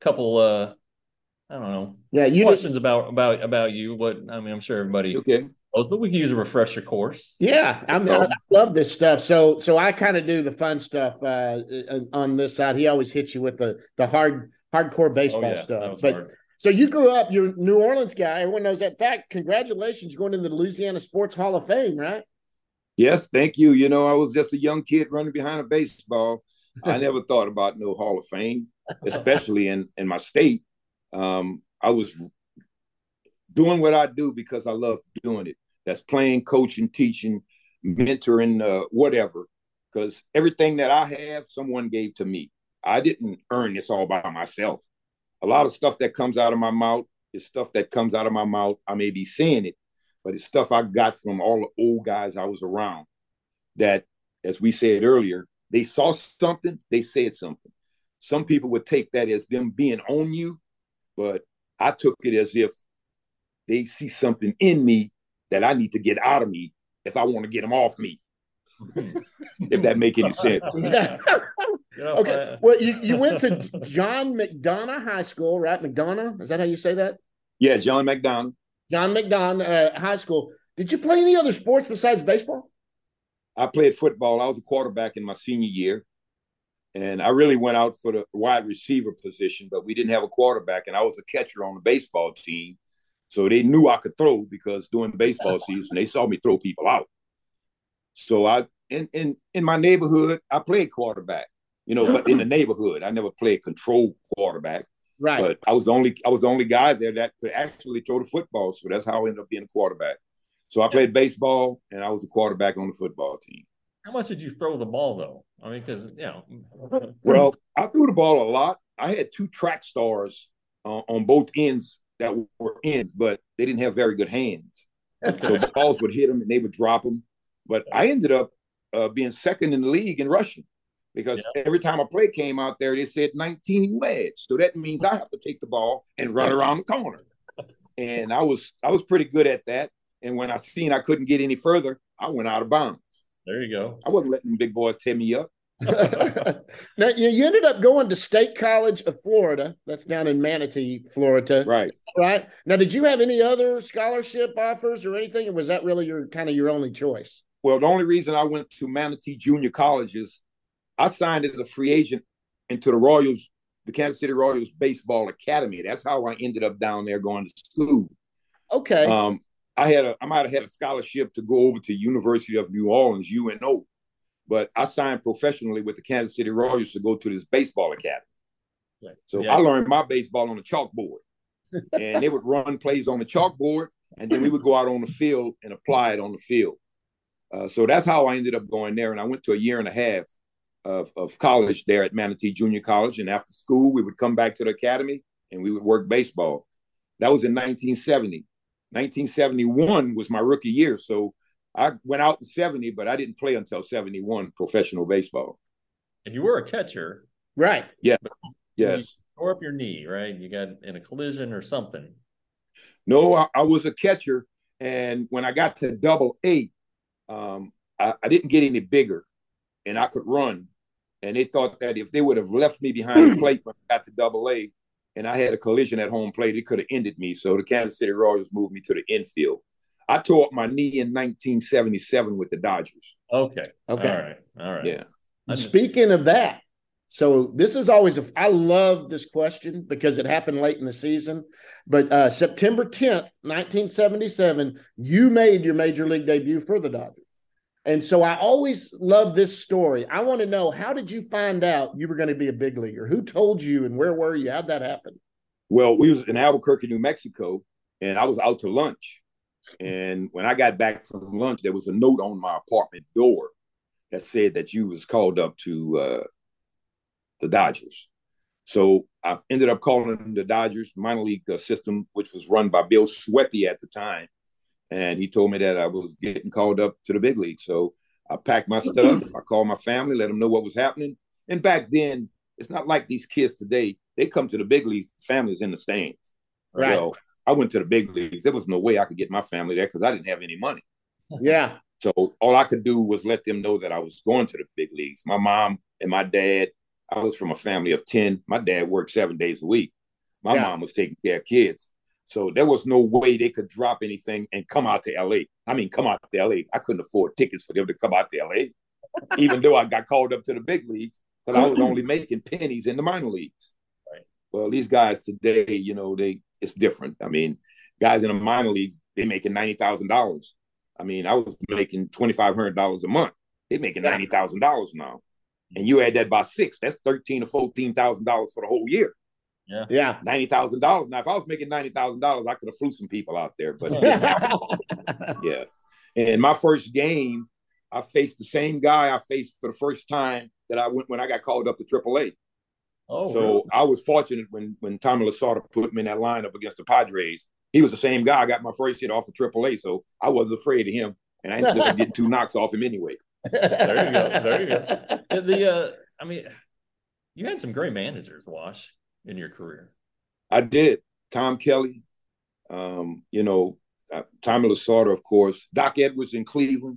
S3: I don't know. Yeah, questions about you. But I mean, I'm sure everybody knows, but we can use a refresher course.
S2: Yeah, I love this stuff. So I kind of do the fun stuff on this side. He always hits you with the hardcore baseball stuff. But hard. So you grew up, you're a New Orleans guy. Everyone knows that. In fact, congratulations, you're going into the Louisiana Sports Hall of Fame, right?
S4: Yes, thank you. You know, I was just a young kid running behind a baseball. I never thought about no Hall of Fame, especially in my state. I was doing what I do because I love doing it. That's playing, coaching, teaching, mentoring, whatever. Because everything that I have, someone gave to me. I didn't earn this all by myself. A lot of stuff that comes out of my mouth is stuff that comes out of my mouth. I may be saying it, but it's stuff I got from all the old guys I was around that, as we said earlier, they saw something, they said something. Some people would take that as them being on you, but I took it as if they see something in me that I need to get out of me if I want to get them off me. If that make any sense.
S2: Yeah. Okay. Well, you went to John McDonough High School, right? McDonough? Is that how you say that?
S4: Yeah, John McDonough.
S2: John McDonough High School. Did you play any other sports besides baseball?
S4: I played football. I was a quarterback in my senior year. And I really went out for the wide receiver position, but we didn't have a quarterback, and I was a catcher on the baseball team. So they knew I could throw because during the baseball season, they saw me throw people out. So in my neighborhood, I played quarterback, but in the neighborhood, I never played control quarterback.
S2: Right.
S4: But I was the only guy there that could actually throw the football. So that's how I ended up being a quarterback. So I played baseball, and I was a quarterback on the football team.
S3: How much did you throw the ball, though? I mean, because,
S4: Well, I threw the ball a lot. I had 2 track stars on both ends that were ends, but they didn't have very good hands. So the balls would hit them, and they would drop them. But I ended up being second in the league in rushing because every time a play came out there, they said 19 wedge. So that means I have to take the ball and run around the corner. And I was pretty good at that. And when I seen I couldn't get any further, I went out of bounds.
S3: There you go.
S4: I wasn't letting big boys tear me up.
S2: Now, you ended up going to State College of Florida. That's down in Manatee, Florida.
S4: Right.
S2: Right. Now, did you have any other scholarship offers or anything, or was that really your only choice?
S4: Well, the only reason I went to Manatee Junior College is I signed as a free agent into the Kansas City Royals Baseball Academy. That's how I ended up down there going to school.
S2: Okay.
S4: I might have had a scholarship to go over to University of New Orleans, UNO, but I signed professionally with the Kansas City Royals to go to this baseball academy. Right. So I learned my baseball on the chalkboard, and they would run plays on the chalkboard, and then we would go out on the field and apply it on the field. So that's how I ended up going there, and I went to a year and a half of college there at Manatee Junior College, and after school, we would come back to the academy, and we would work baseball. That was in 1970. 1971 was my rookie year, so I went out in 70, but I didn't play until 71 professional baseball.
S3: And you were a catcher.
S2: Right.
S4: Yeah. Yes.
S3: You tore up your knee, right? You got in a collision or something.
S4: No, I was a catcher, and when I got to AA, I didn't get any bigger, and I could run. And they thought that if they would have left me behind the plate when I got to AA, and I had a collision at home plate, it could have ended me. So the Kansas City Royals moved me to the infield. I tore up my knee in 1977 with the Dodgers.
S3: Okay. All right.
S4: Yeah.
S2: Speaking of that, so this is always I love this question because it happened late in the season. But September 10th, 1977, you made your major league debut for the Dodgers. And so I always love this story. I want to know, how did you find out you were going to be a big leaguer? Who told you, and where were you? How'd that happen?
S4: Well, we was in Albuquerque, New Mexico, and I was out to lunch. And when I got back from lunch, there was a note on my apartment door that said that you was called up to the Dodgers. So I ended up calling the Dodgers minor league system, which was run by Bill Sweppy at the time. And he told me that I was getting called up to the big league. So I packed my stuff. I called my family, let them know what was happening. And back then, It's not like these kids today. They come to the big leagues, families in the stands.
S2: Right.
S4: Well, I went to the big leagues. There was no way I could get my family there because I didn't have any money.
S2: Yeah.
S4: So all I could do was let them know that I was going to the big leagues. My mom and my dad, I was from a family of 10. My dad worked 7 days a week. My mom was taking care of kids. So there was no way they could drop anything and come out to LA. I mean, come out to LA. I couldn't afford tickets for them to come out to LA, even though I got called up to the big leagues because I was only making pennies in the minor leagues. Right. Well, these guys today, you know, it's different. I mean, guys in the minor leagues, they making $90,000. I mean, I was making $2,500 a month. They're making $90,000 now. And you add that by 6, that's $13,000 or $14,000 for the whole year.
S2: Yeah.
S4: $90,000. Now, if I was making $90,000, I could have flew some people out there. But yeah. And my first game, I faced the same guy I faced for the first time that I went when I got called up to AAA. Oh, so really? I was fortunate when Tommy Lasorda put me in that lineup against the Padres. He was the same guy. I got my first hit off of AAA, so I wasn't afraid of him, and I ended up getting 2 knocks off him anyway.
S3: There you go. There you go. I mean, you had some great managers, Wash, in your career.
S4: I did. Tom Kelly, Tommy Lasorda, of course. Doc Edwards in Cleveland.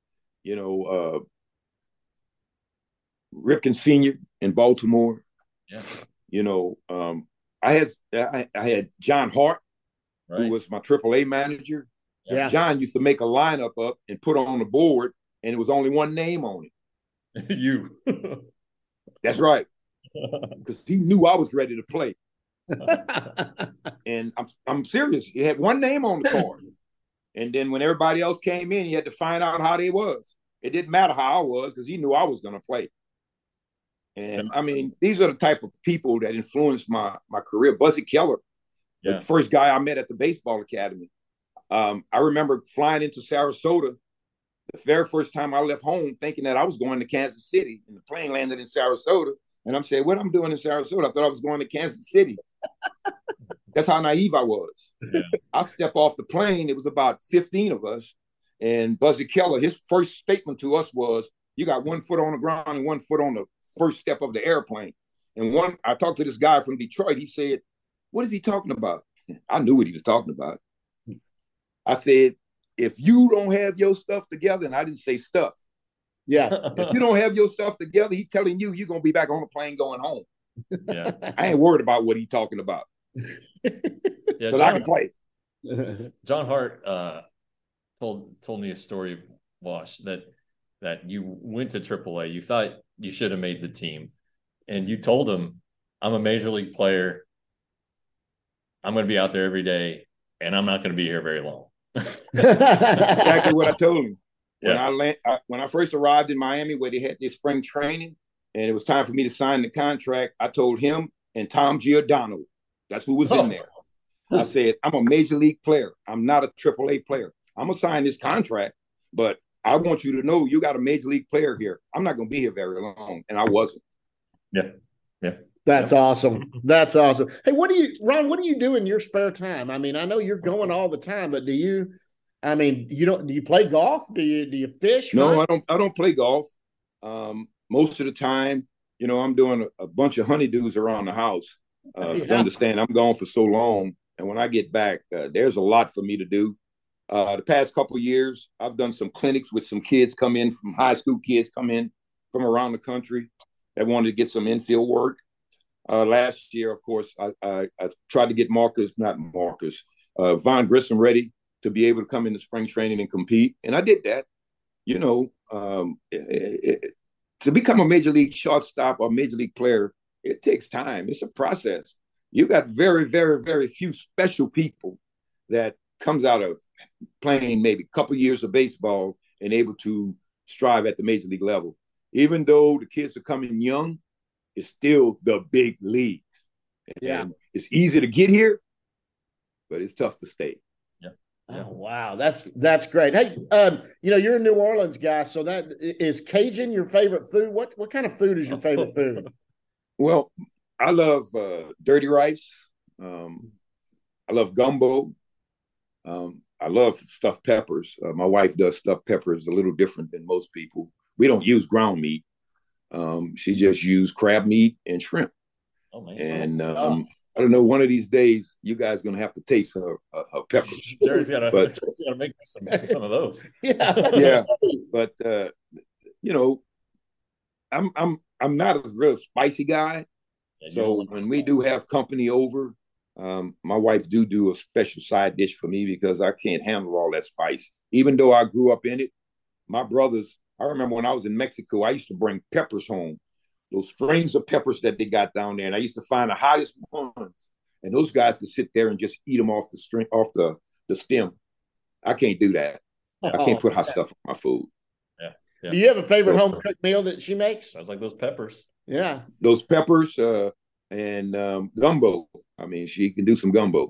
S4: Ripken Sr. in Baltimore. Yeah. I had John Hart, who was my AAA manager. Yeah. John used to make a lineup up and put on the board, and it was only one name on
S3: it. You.
S4: That's right. Because he knew I was ready to play. And I'm serious. He had one name on the card. And then when everybody else came in, he had to find out how they was. It didn't matter how I was because he knew I was going to play. And, I mean, these are the type of people that influenced my career. Buzzy Keller, the first guy I met at the baseball academy. I remember flying into Sarasota the very first time I left home thinking that I was going to Kansas City. And the plane landed in Sarasota. And I'm saying, what I'm doing in Sarasota? I thought I was going to Kansas City. That's how naive I was. Yeah. I stepped off the plane. It was about 15 of us. And Buzzy Keller, his first statement to us was, you got 1 foot on the ground and 1 foot on the first step of the airplane. And I talked to this guy from Detroit. He said, what is he talking about? I knew what he was talking about. I said, if you don't have your stuff together, and I didn't say stuff. Yeah. If you don't have your stuff together, he's telling you you're going to be back on the plane going home. Yeah. I ain't worried about what he's talking about. Because I can play.
S3: John Hart told me a story, Wash, that you went to AAA. You thought you should have made the team. And you told him, I'm a major league player. I'm going to be out there every day, and I'm not going to be here very long.
S4: Exactly what I told him. Yeah. When I first arrived in Miami, where they had their spring training, and it was time for me to sign the contract, I told him and Tom Giordano, that's who was in there. I said, I'm a major league player. I'm not a AAA player. I'm going to sign this contract, but I want you to know you got a major league player here. I'm not going to be here very long. And I wasn't.
S3: Yeah. Yeah.
S2: That's awesome. That's awesome. Hey, Ron, what do you do in your spare time? I mean, I know you're going all the time, but do you play golf? Do you fish?
S4: No, I don't play golf. Most of the time, I'm doing a bunch of honeydews around the house. To understand, I'm gone for so long. And when I get back, there's a lot for me to do. The past couple of years, I've done some clinics with some kids come in from high school kids come in from around the country that wanted to get some infield work. Last year, of course, I tried to get Vaughn Grissom ready to be able to come into spring training and compete. And I did that. To become a major league shortstop or major league player, it takes time. It's a process. You got very, very, very few special people that comes out of playing maybe a couple years of baseball and able to strive at the major league level. Even though the kids are coming young, it's still the big leagues. Yeah. And it's easy to get here, but it's tough to stay.
S2: Yeah. Oh, wow. That's great. Hey, you're a New Orleans guy, so that is Cajun your favorite food? What kind of food is your favorite food?
S4: Well, I love dirty rice. I love gumbo. I love stuffed peppers. My wife does stuffed peppers a little different than most people. We don't use ground meat. She just used crab meat and shrimp.
S3: Oh man!
S4: And I don't know. One of these days, you guys are gonna have to taste her peppers.
S3: Jerry's gotta make me some of those.
S4: Yeah. But you know, I'm not a real spicy guy. Yeah, so when we do have company over, my wife do a special side dish for me because I can't handle all that spice. Even though I grew up in it, my brothers. I remember when I was in Mexico, I used to bring peppers home, those strings of peppers that they got down there, and I used to find the hottest ones, and those guys to sit there and just eat them off the stem. I can't do that. I can't put hot stuff on my food.
S2: Yeah. Do you have a favorite home cooked meal that she makes?
S3: Sounds like those peppers.
S2: Yeah.
S4: Those peppers and gumbo. I mean, she can do some gumbo.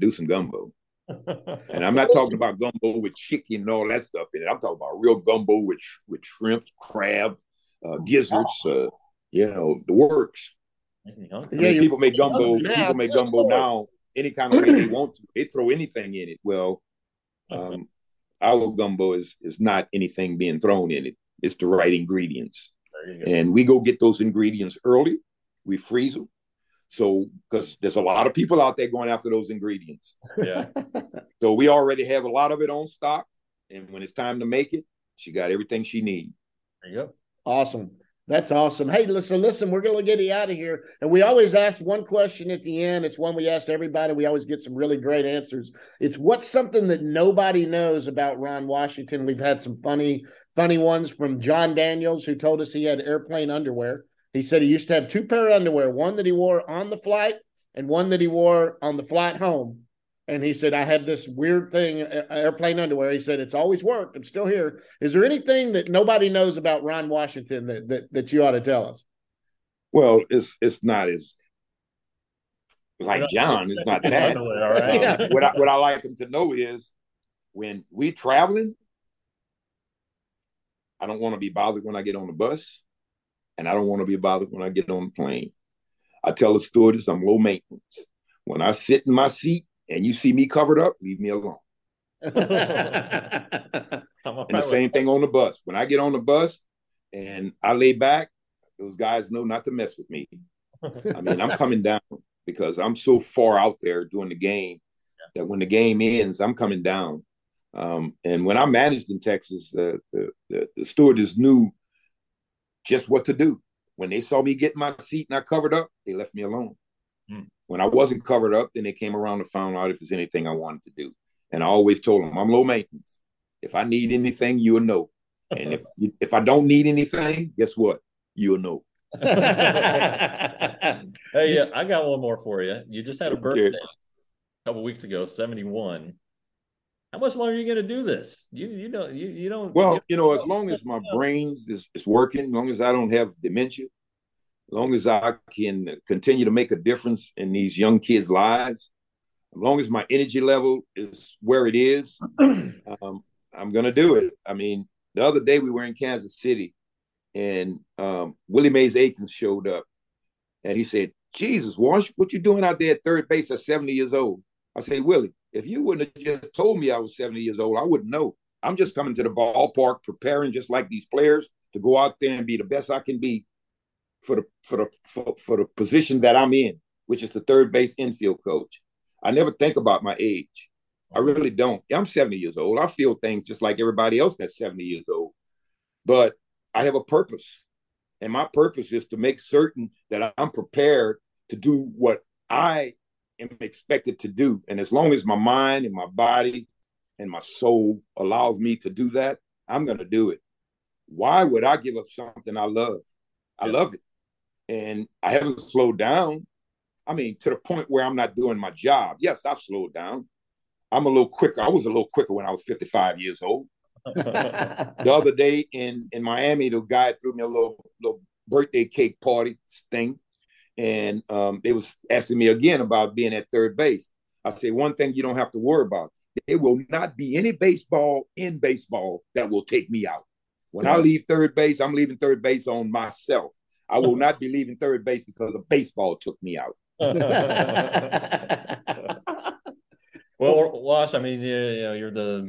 S4: And I'm not talking about gumbo with chicken and all that stuff in it. I'm talking about real gumbo with shrimp, crab, gizzards, the works. People make gumbo. People make gumbo now any kind of way they want to. They throw anything in it. Well, our gumbo is not anything being thrown in it. It's the right ingredients. And we go get those ingredients early. We freeze them. So, because there's a lot of people out there going after those ingredients.
S3: Yeah.
S4: So we already have a lot of it on stock. And when it's time to make it, she got everything she needs.
S3: There you go.
S2: Awesome. That's awesome. Hey, listen, we're going to get you out of here. And we always ask one question at the end. It's one we ask everybody. We always get some really great answers. It's what's something that nobody knows about Ron Washington? We've had some funny ones from John Daniels, who told us he had airplane underwear. He said he used to have 2 pair of underwear, one that he wore on the flight and one that he wore on the flight home. And he said, I had this weird thing, airplane underwear. He said, it's always worked. I'm still here. Is there anything that nobody knows about Ron Washington that you ought to tell us?
S4: Well, it's not as like John. It's not that.
S3: Right.
S4: What I like him to know is when we traveling, I don't want to be bothered when I get on the bus. And I don't want to be bothered when I get on the plane. I tell the stewardess I'm low maintenance. When I sit in my seat and you see me covered up, leave me alone. And the same thing on the bus. When I get on the bus and I lay back, those guys know not to mess with me. I mean, I'm coming down because I'm so far out there during the game that when the game ends, I'm coming down. And when I managed in Texas, the stewardess knew just what to do. When they saw me get in my seat and I covered up, they left me alone. When I wasn't covered up, then they came around and found out if there's anything I wanted to do. And I always told them, I'm low maintenance. If I need anything, you'll know. And if I don't need anything, guess what? You'll know.
S3: Hey, I got one more for you. You just had a birthday a couple weeks ago, 71. How much longer are you going to do this? You don't.
S4: Well, as long as my brains is working, as long as I don't have dementia, as long as I can continue to make a difference in these young kids' lives, as long as my energy level is where it is, I'm going to do it. I mean, the other day we were in Kansas City, and Willie Mays Aikens showed up, and he said, Jesus, Wash, what you doing out there at third base at 70 years old? I said, Willie, if you wouldn't have just told me I was 70 years old, I wouldn't know. I'm just coming to the ballpark preparing just like these players to go out there and be the best I can be for the position that I'm in, which is the third base infield coach. I never think about my age. I really don't. I'm 70 years old. I feel things just like everybody else that's 70 years old. But I have a purpose. And my purpose is to make certain that I'm prepared to do what I am expected to do. And as long as my mind and my body and my soul allows me to do that, I'm going to do it. Why would I give up something I love? I love it. And I haven't slowed down. I mean, to the point where I'm not doing my job. Yes, I've slowed down. I'm a little quicker. I was a little quicker when I was 55 years old. The other day in Miami, the guy threw me a little birthday cake party thing. And they was asking me again about being at third base. I say, one thing you don't have to worry about. There will not be any baseball in baseball that will take me out. When I leave third base, I'm leaving third base on myself. I will not be leaving third base because the baseball took me out.
S3: Well, Wash, I mean, you're the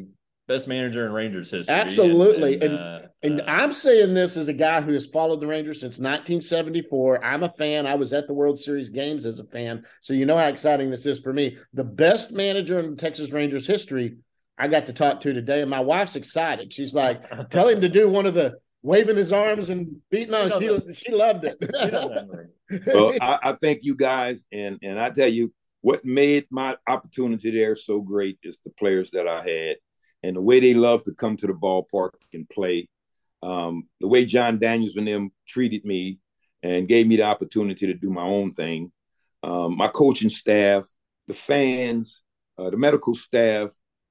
S3: best manager in Rangers history.
S2: Absolutely. And I'm saying this as a guy who has followed the Rangers since 1974. I'm a fan. I was at the World Series games as a fan. So you know how exciting this is for me. The best manager in Texas Rangers history I got to talk to today, and my wife's excited. She's like, tell him to do one of the waving his arms and beating on. She loved it.
S4: Well, I thank you guys, and I tell you what made my opportunity there so great is the players that I had and the way they love to come to the ballpark and play. The way John Daniels and them treated me and gave me the opportunity to do my own thing. My coaching staff, the fans, the medical staff.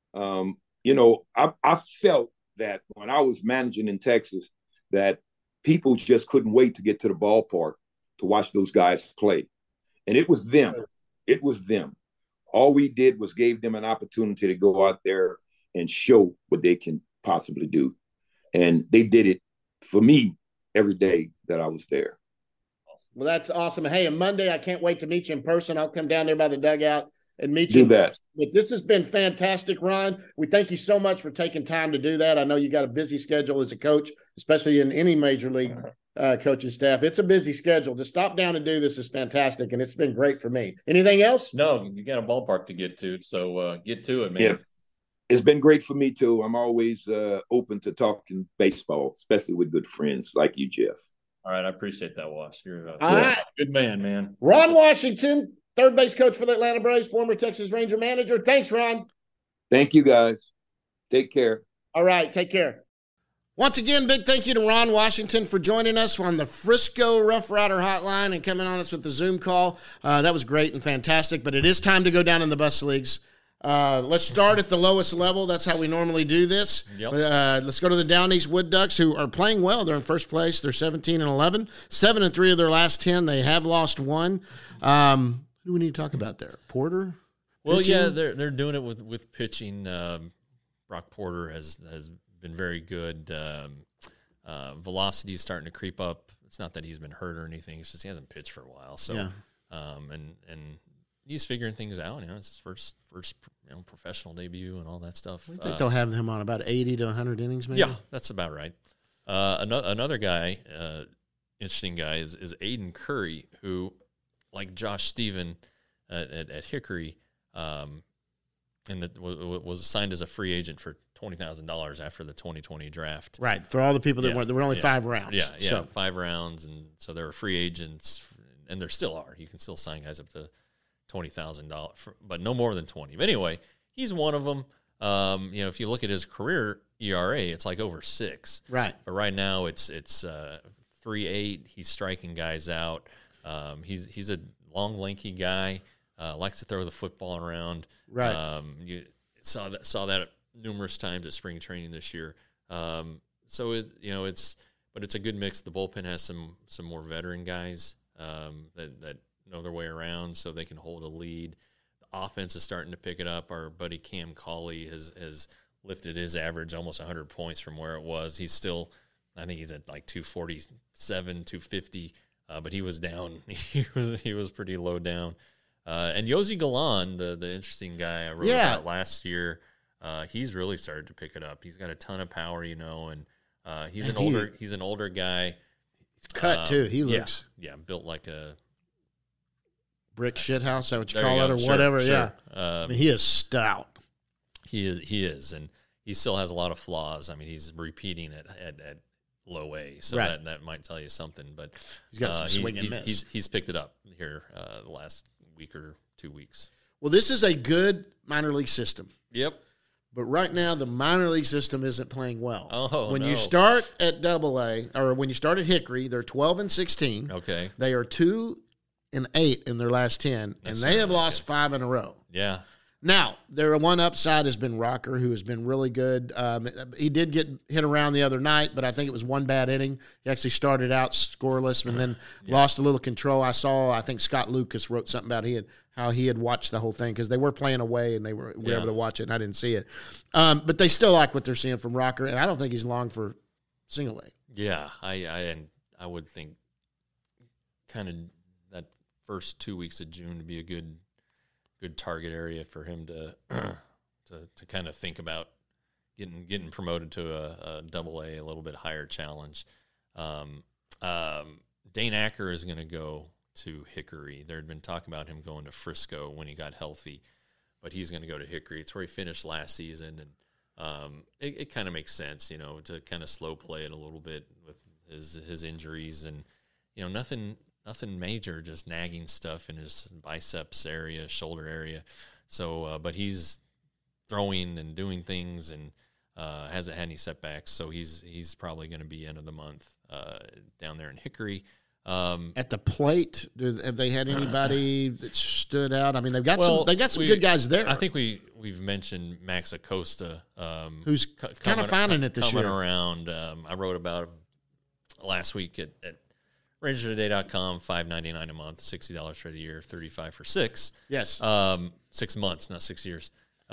S4: I felt that when I was managing in Texas, that people just couldn't wait to get to the ballpark to watch those guys play. And it was them. It was them. All we did was gave them an opportunity to go out there and show what they can possibly do. And they did it for me every day that I was there.
S2: Well, that's awesome. Hey, on Monday, I can't wait to meet you in person. I'll come down there by the dugout and meet you.
S4: Do that.
S2: But this has been fantastic, Ron. We thank you so much for taking time to do that. I know you got a busy schedule as a coach, especially in any major league coaching staff. It's a busy schedule. To stop down and do this is fantastic, and it's been great for me. Anything else?
S3: No, you got a ballpark to get to, so get to it, man.
S4: Yeah. It's been great for me, too. I'm always open to talking baseball, especially with good friends like you, Jeff.
S3: All right, I appreciate that, Wash. You're a
S2: good
S3: man, man.
S2: Ron Washington, third base coach for the Atlanta Braves, former Texas Ranger manager. Thanks, Ron.
S4: Thank you, guys. Take care.
S2: All right, take care. Once again, big thank you to Ron Washington for joining us on the Frisco Rough Rider Hotline and coming on us with the Zoom call. That was great and fantastic, but it is time to go down in the bus leagues. Let's start at the lowest level. That's how we normally do this.
S3: Yep.
S2: Let's go to the Down East Wood Ducks, who are playing well. They're in first place. They're 17-11, 7-3 of their last 10. They have lost one. Who do we need to talk about there? Porter?
S3: Well,
S2: pitching?
S3: yeah, they're doing it with pitching. Brock Porter has been very good. Velocity is starting to creep up. It's not that he's been hurt or anything. It's just he hasn't pitched for a while. So,
S2: yeah.
S3: And he's figuring things out. You know, it's his first professional debut and all that stuff.
S2: I think they'll have him on about 80 to 100 innings, maybe.
S3: Yeah, that's about right. Another guy, interesting guy, is Aiden Curry, who, like Josh Stephen at Hickory, and that was signed as a free agent for $20,000 after the 2020 draft.
S2: Right, for all the people that went, there were only 5 rounds.
S3: Yeah,
S2: so.
S3: 5 rounds, and so there were free agents, and there still are. You can still sign guys up to $20,000, but no more than 20. But anyway, he's one of them. If you look at his career ERA, it's like over 6.
S2: Right.
S3: But right now it's 3.8. He's striking guys out. He's a long, lanky guy. Likes to throw the football around.
S2: Right.
S3: You saw that numerous times at spring training this year. So it's a good mix. The bullpen has some more veteran guys that know their way around, so they can hold a lead. The offense is starting to pick it up. Our buddy Cam Cauley has lifted his average almost 100 points from where it was. He's still, I think he's at like 247, 250, but he was down. He was pretty low down. And Yosi Galan, the interesting guy I wrote about last year, he's really started to pick it up. He's got a ton of power, and he's an older guy.
S2: He's cut too. He looks
S3: built like a
S2: brick shithouse, is that what you call it, or whatever? Sure. Yeah, I mean, he is stout.
S3: He is, and he still has a lot of flaws. I mean, he's repeating it at low A, so that might tell you something. But
S2: he's got some swing and miss.
S3: He's picked it up here the last week or 2 weeks.
S2: Well, this is a good minor league system.
S3: Yep.
S2: But right now, the minor league system isn't playing well.
S3: When
S2: you start at Double-A, or when you start at Hickory, they're 12-16.
S3: Okay.
S2: They are 2-8 in their last 10, and they have lost 5 in a row.
S3: Yeah.
S2: Now, their one upside has been Rocker, who has been really good. He did get hit around the other night, but I think it was one bad inning. He actually started out scoreless and then lost a little control. I think Scott Lucas wrote something about how he had watched the whole thing because they were playing away and they were able to watch it, and I didn't see it. But they still like what they're seeing from Rocker, and I don't think he's long for single A.
S3: Yeah, I would think kind of that first 2 weeks of June to be a good target area for him to kind of think about getting promoted to a Double-A, a little bit higher challenge. Dane Acker is going to go to Hickory. There had been talk about him going to Frisco when he got healthy, but he's going to go to Hickory. It's where he finished last season, and it kind of makes sense, to kind of slow play it a little bit with his injuries, and nothing major, just nagging stuff in his biceps area, shoulder area. So, but he's throwing and doing things and hasn't had any setbacks. So he's probably going to be end of the month down there in Hickory.
S2: At the plate, have they had anybody that stood out? I mean, they've got some good guys there.
S3: I think we've mentioned Max Acosta,
S2: who's kind of finding it this year.
S3: Coming around. I wrote about him last week at RangersToday.com. $5.99 a month, $60 for the year, $35 for 6.
S2: Yes,
S3: 6 months, not 6 years.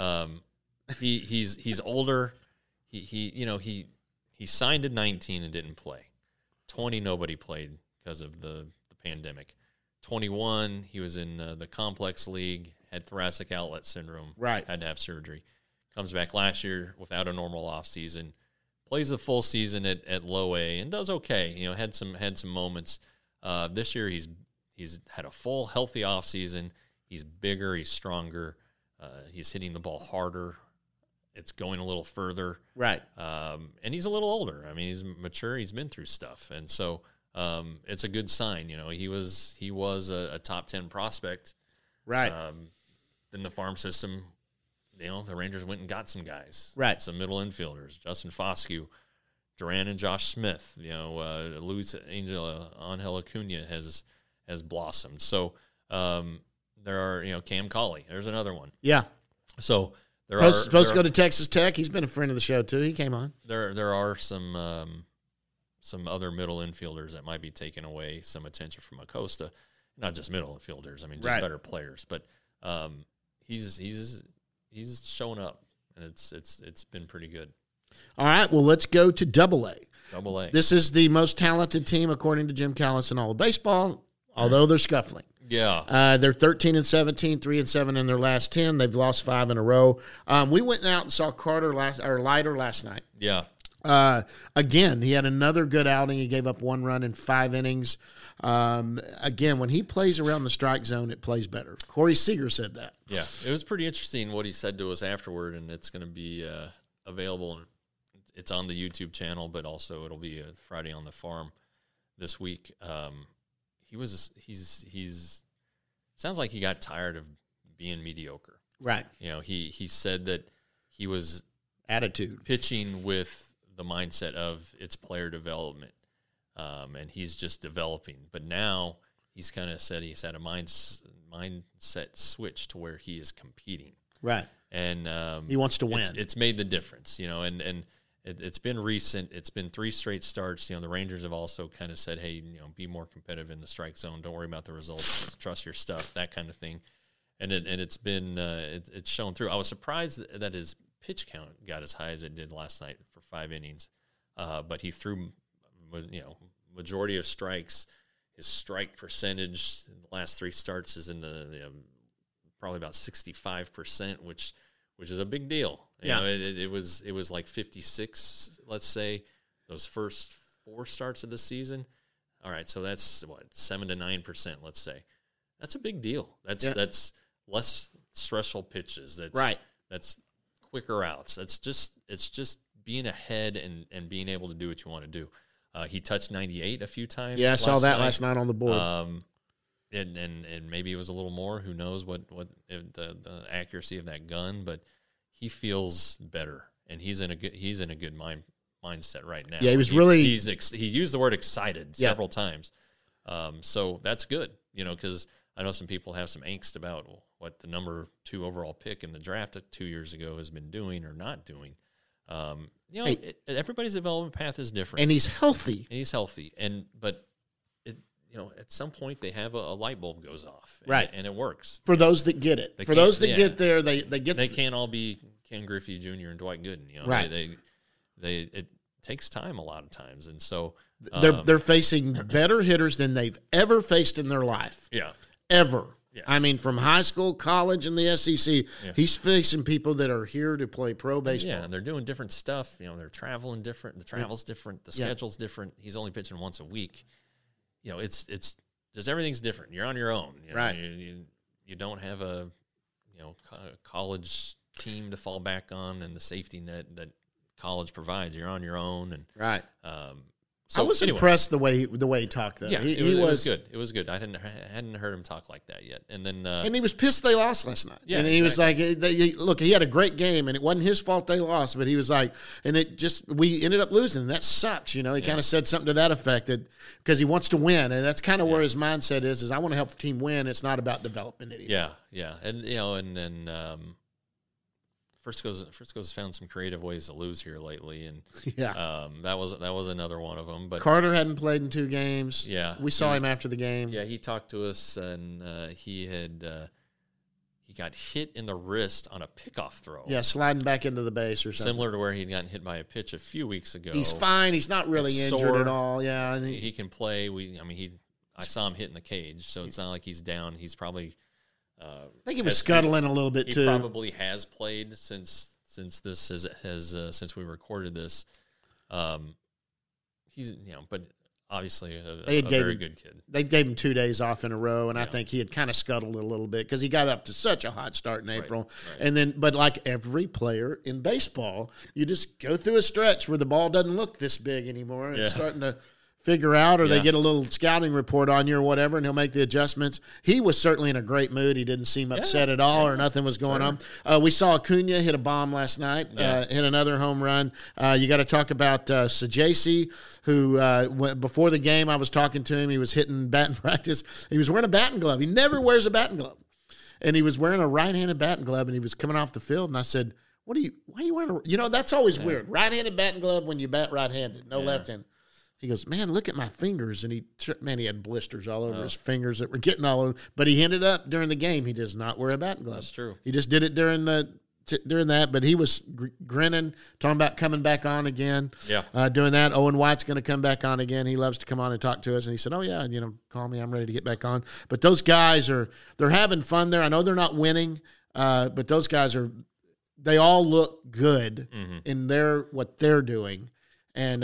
S3: He's older. He signed at 19 and didn't play. 20, nobody played because of the pandemic. 21, he was in the complex league, had thoracic outlet syndrome,
S2: right?
S3: Had to have surgery. Comes back last year without a normal off season, plays the full season at low A and does okay. Had some moments. This year he's had a full healthy off season. He's bigger, he's stronger, he's hitting the ball harder. It's going a little further,
S2: right?
S3: And he's a little older. I mean, he's mature. He's been through stuff, and so it's a good sign. He was a top 10 prospect,
S2: right?
S3: In the farm system, the Rangers went and got some guys,
S2: right?
S3: Some middle infielders, Justin Foscue, Duran, and Josh Smith. Luis Angel Acuna has blossomed. So there are Cam Cauley. There's another one.
S2: Yeah.
S3: So.
S2: Supposed to go to Texas Tech. He's been a friend of the show too. He came on.
S3: There are some other middle infielders that might be taking away some attention from Acosta. Not just middle infielders. I mean, just better players. But he's showing up, and it's been pretty good.
S2: All right. Well, let's go to Double-A.
S3: Double-A.
S2: This is the most talented team according to Jim Callis in all of baseball. Although they're scuffling.
S3: Yeah.
S2: They're 13-17, 3-7 in their last 10. They've lost 5 in a row. We went out and saw Leiter last night.
S3: Yeah.
S2: Again, he had another good outing. He gave up 1 run in 5 innings. Again, when he plays around the strike zone, it plays better. Corey Seager said that.
S3: Yeah. It was pretty interesting what he said to us afterward, and it's going to be available. It's on the YouTube channel, but also it'll be Friday on the Farm this week. He's sounds like he got tired of being mediocre.
S2: Right.
S3: He said that he was
S2: attitude
S3: pitching with the mindset of it's player development, and he's just developing. But now he's kind of said he's had a mindset switch to where he is competing.
S2: Right.
S3: And
S2: he wants to win.
S3: It's made the difference, and it's been recent. It's been 3 straight starts. The Rangers have also kind of said, hey, be more competitive in the strike zone. Don't worry about the results. Just trust your stuff, that kind of thing. And it's been it's shown through. I was surprised that his pitch count got as high as it did last night for 5 innings. But he threw, majority of strikes. His strike percentage in the last 3 starts is in the probably about 65%, which is a big deal. It was like 56, let's say, those first 4 starts of the season. All right, so that's 7 to 9%, let's say. That's a big deal. That's less stressful pitches. That's
S2: right.
S3: That's quicker outs. It's just being ahead and being able to do what you want to do. He touched 98 a few times.
S2: Yeah, I saw that last night on the board.
S3: And maybe it was a little more. Who knows what the accuracy of that gun, but he feels better, and he's in a good mindset right now.
S2: Yeah, he
S3: used the word excited several times. So that's good, because I know some people have some angst about what the number 2 overall pick in the draft 2 years ago has been doing or not doing. Everybody's development path is different,
S2: and he's healthy.
S3: But at some point they have a light bulb goes off,
S2: right?
S3: And it works
S2: for those that get it. For those that get there, they get.
S3: They can't all be Ken Griffey Jr. and Dwight Gooden.
S2: Right?
S3: It takes time a lot of times, and so
S2: they're facing better hitters than they've ever faced in their life.
S3: Yeah,
S2: ever. Yeah. I mean, from high school, college, and the SEC, he's facing people that are here to play pro baseball.
S3: Yeah, and they're doing different stuff. They're traveling different. The travel's different. The schedule's different. He's only pitching once a week. It's just everything's different. You're on your own.
S2: Right.
S3: You don't have a college team to fall back on and the safety net that college provides. You're on your own. And
S2: right. So I was impressed the way he talked, though.
S3: Yeah, it was good. It was good. I hadn't heard him talk like that yet. And then and
S2: he was pissed they lost last night. Yeah, and he was like, "Look, he had a great game, and it wasn't his fault they lost." But he was like, "And we ended up losing. And that sucks." He kind of said something to that effect because he wants to win, and that's kind of where his mindset is I want to help the team win. It's not about development anymore.
S3: Yeah, and Frisco's found some creative ways to lose here lately, and that was another one of them. But
S2: Carter hadn't played in 2 games.
S3: Yeah,
S2: we saw him after the game.
S3: Yeah, he talked to us, and he got hit in the wrist on a pickoff throw.
S2: Yeah, sliding back into the base or something.
S3: Similar to where he'd gotten hit by a pitch a few weeks ago.
S2: He's fine. He's not really injured at all. Yeah, and
S3: he can play. I saw him hit in the cage, so it's not like he's down. He's probably.
S2: I think he was scuttling a little bit too.
S3: He probably has played since we recorded this. He's but obviously a very good kid.
S2: They gave him 2 days off in a row, and I think he had kind of scuttled a little bit because he got up to such a hot start in April. Right. And then, but like every player in baseball, you just go through a stretch where the ball doesn't look this big anymore, and it's starting to figure out, or they get a little scouting report on you or whatever, and he'll make the adjustments. He was certainly in a great mood. He didn't seem upset at all, or nothing was going on. We saw Acuna hit a bomb last night, hit another home run. You got to talk about Sajasi, who before the game I was talking to him. He was hitting batting practice. He was wearing a batting glove. He never wears a batting glove, and he was wearing a right-handed batting glove, and he was coming off the field, and I said, why are you wearing that's always weird. Right-handed batting glove when you bat right-handed, no left-handed. He goes, man, look at my fingers. And he had blisters all over his fingers that were getting all over. But he ended up during the game, he does not wear a batting glove.
S3: That's true.
S2: He just did it during that. But he was grinning, talking about coming back on again.
S3: Yeah.
S2: Doing that. Owen White's going to come back on again. He loves to come on and talk to us. And he said, oh, yeah, call me. I'm ready to get back on. But those guys they're having fun there. I know they're not winning, but those guys they all look good in what they're doing. And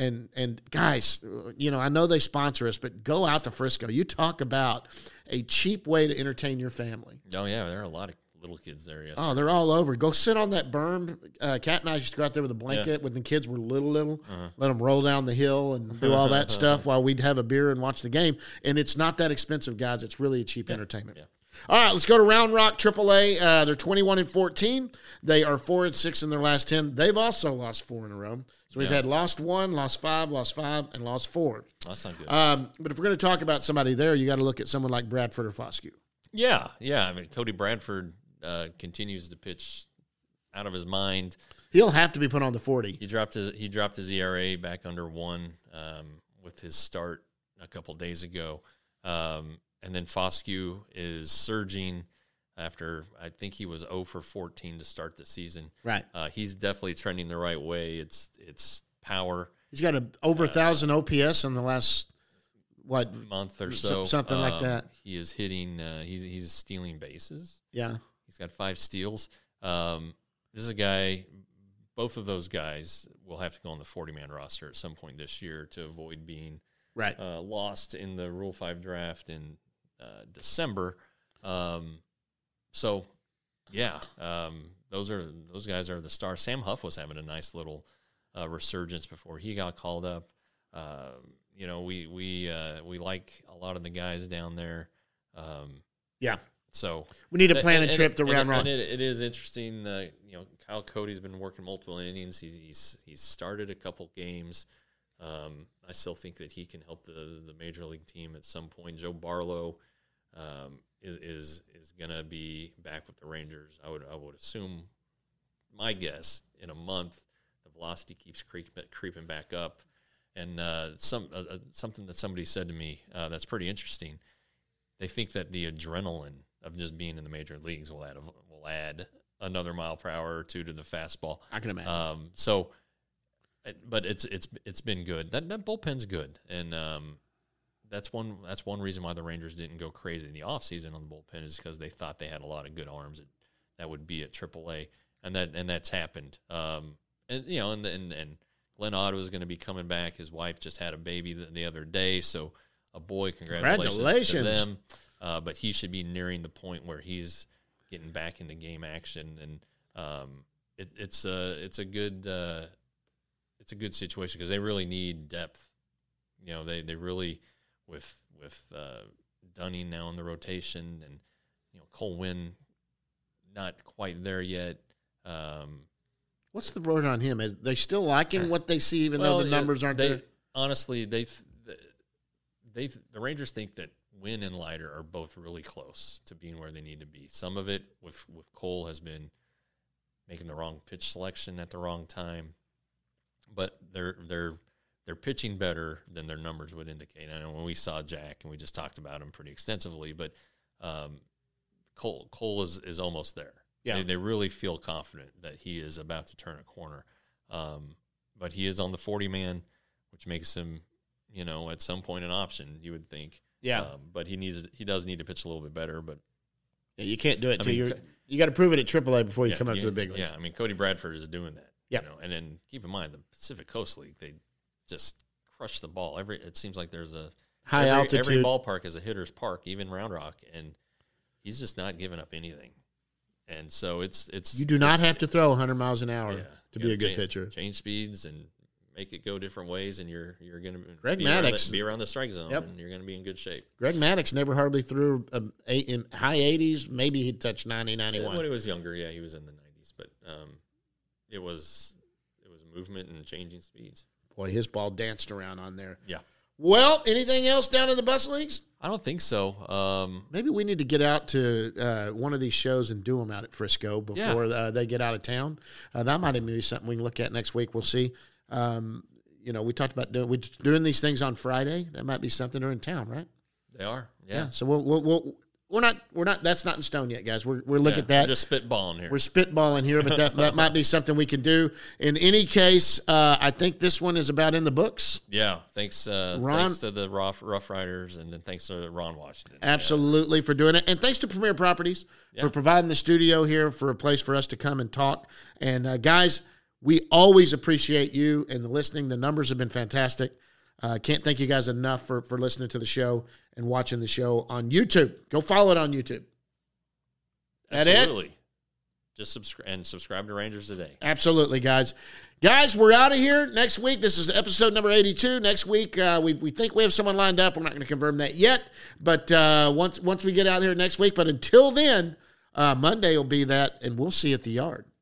S2: guys, I know they sponsor us, but go out to Frisco. You talk about a cheap way to entertain your family.
S3: Oh, yeah. There are a lot of little kids there. Yes.
S2: Oh, they're all over. Go sit on that berm. Kat and I used to go out there with a blanket when the kids were little. Let them roll down the hill and do all that stuff while we'd have a beer and watch the game. And it's not that expensive, guys. It's really a cheap entertainment.
S3: Yeah.
S2: All right, let's go to Round Rock AAA. They're 21-14. They are 4-6 in their last 10. They've also lost 4 in a row. So we've had lost 1, lost 5, and lost 4.
S3: That's not good.
S2: But if we're going to talk about somebody there, you got to look at someone like Bradford or Foscue.
S3: Yeah. I mean, Cody Bradford continues to pitch out of his mind.
S2: He'll have to be put on the 40.
S3: He dropped his ERA back under 1 with his start a couple days ago. And then Foscue is surging after I think he was 0 for 14 to start the season.
S2: Right.
S3: He's definitely trending the right way. It's power.
S2: He's got over 1,000 OPS in the last
S3: month or so,
S2: something like that.
S3: He is hitting. He's stealing bases.
S2: Yeah.
S3: He's got 5 steals. This is a guy. Both of those guys will have to go on the 40-man roster at some point this year to avoid being lost in the Rule 5 draft in December. Those guys are the stars. Sam Huff was having a nice little resurgence before he got called up. We like a lot of the guys down there. So
S2: we need to plan a trip to Round Rock.
S3: And it is interesting. Kyle Cody's been working multiple innings. He's started a couple games. I still think that he can help the major league team at some point. Joe Barlow is going to be back with the Rangers. I would assume, my guess, in a month, the velocity keeps creeping back up. And something that somebody said to me that's pretty interesting. They think that the adrenaline of just being in the major leagues will add another mile per hour or 2 to the fastball.
S2: I can imagine.
S3: But it's been good. That bullpen's good, and that's one reason why the Rangers didn't go crazy in the offseason on the bullpen is because they thought they had a lot of good arms that would be at AAA, and that's happened. And Glenn Otto is going to be coming back. His wife just had a baby the other day, so a boy. Congratulations to them. But he should be nearing the point where he's getting back into game action, and it's a good situation because they really need depth. They really with Dunning now in the rotation, and Cole Winn not quite there yet.
S2: What's the word on him? Is they still liking what they see, even though the numbers aren't there?
S3: Honestly, the Rangers think that Winn and Leiter are both really close to being where they need to be. Some of it with Cole has been making the wrong pitch selection at the wrong time, but they're pitching better than their numbers would indicate. I know when we saw Jack, and we just talked about him pretty extensively, but Cole is almost there. Yeah. They really feel confident that he is about to turn a corner. But he is on the 40-man, which makes him, at some point an option, you would think.
S2: Yeah.
S3: But he does need to pitch a little bit better. But
S2: yeah, you can't do it until you got to prove it at AAA before you come up to the big leagues.
S3: Yeah, Cody Bradford is doing that.
S2: Yeah.
S3: And then keep in mind the Pacific Coast League, they just crush the ball. It seems like there's a
S2: high altitude.
S3: Every ballpark is a hitter's park, even Round Rock, and he's just not giving up anything. And so it's
S2: you do not have to throw 100 miles an hour to be a good pitcher.
S3: Change speeds and make it go different ways, and you're going
S2: to
S3: be around the strike zone, and you're going to be in good shape.
S2: Greg Maddux never hardly threw in high 80s. Maybe he touched 90, 91.
S3: When he was younger, he was in the 90s, but it was movement and changing speeds.
S2: Boy, his ball danced around on there.
S3: Yeah.
S2: Well, anything else down in the bus leagues?
S3: I don't think so.
S2: Maybe we need to get out to one of these shows and do them out at Frisco before they get out of town. That might even be something we can look at next week. We'll see. We talked about doing these things on Friday. That might be something they're in town, right?
S3: They are. Yeah.
S2: So we're not. That's not in stone yet, guys. We're looking at that.
S3: We're just spitballing here.
S2: We're spitballing here, but that might be something we can do. In any case, I think this one is about in the books.
S3: Yeah. Thanks, Ron. Thanks to the Rough Riders, and then thanks to Ron Washington.
S2: Absolutely for doing it, and thanks to Premier Properties for providing the studio here for a place for us to come and talk. And guys, we always appreciate you and the listening. The numbers have been fantastic. Can't thank you guys enough for listening to the show and watching the show on YouTube. Go follow it on YouTube.
S3: Absolutely. Just subscribe to Rangers Today.
S2: Absolutely, guys. Guys, we're out of here. Next week, this is episode number 82. Next week, we think we have someone lined up. We're not going to confirm that yet, but once we get out here next week. But until then, Monday will be that, and we'll see you at the yard.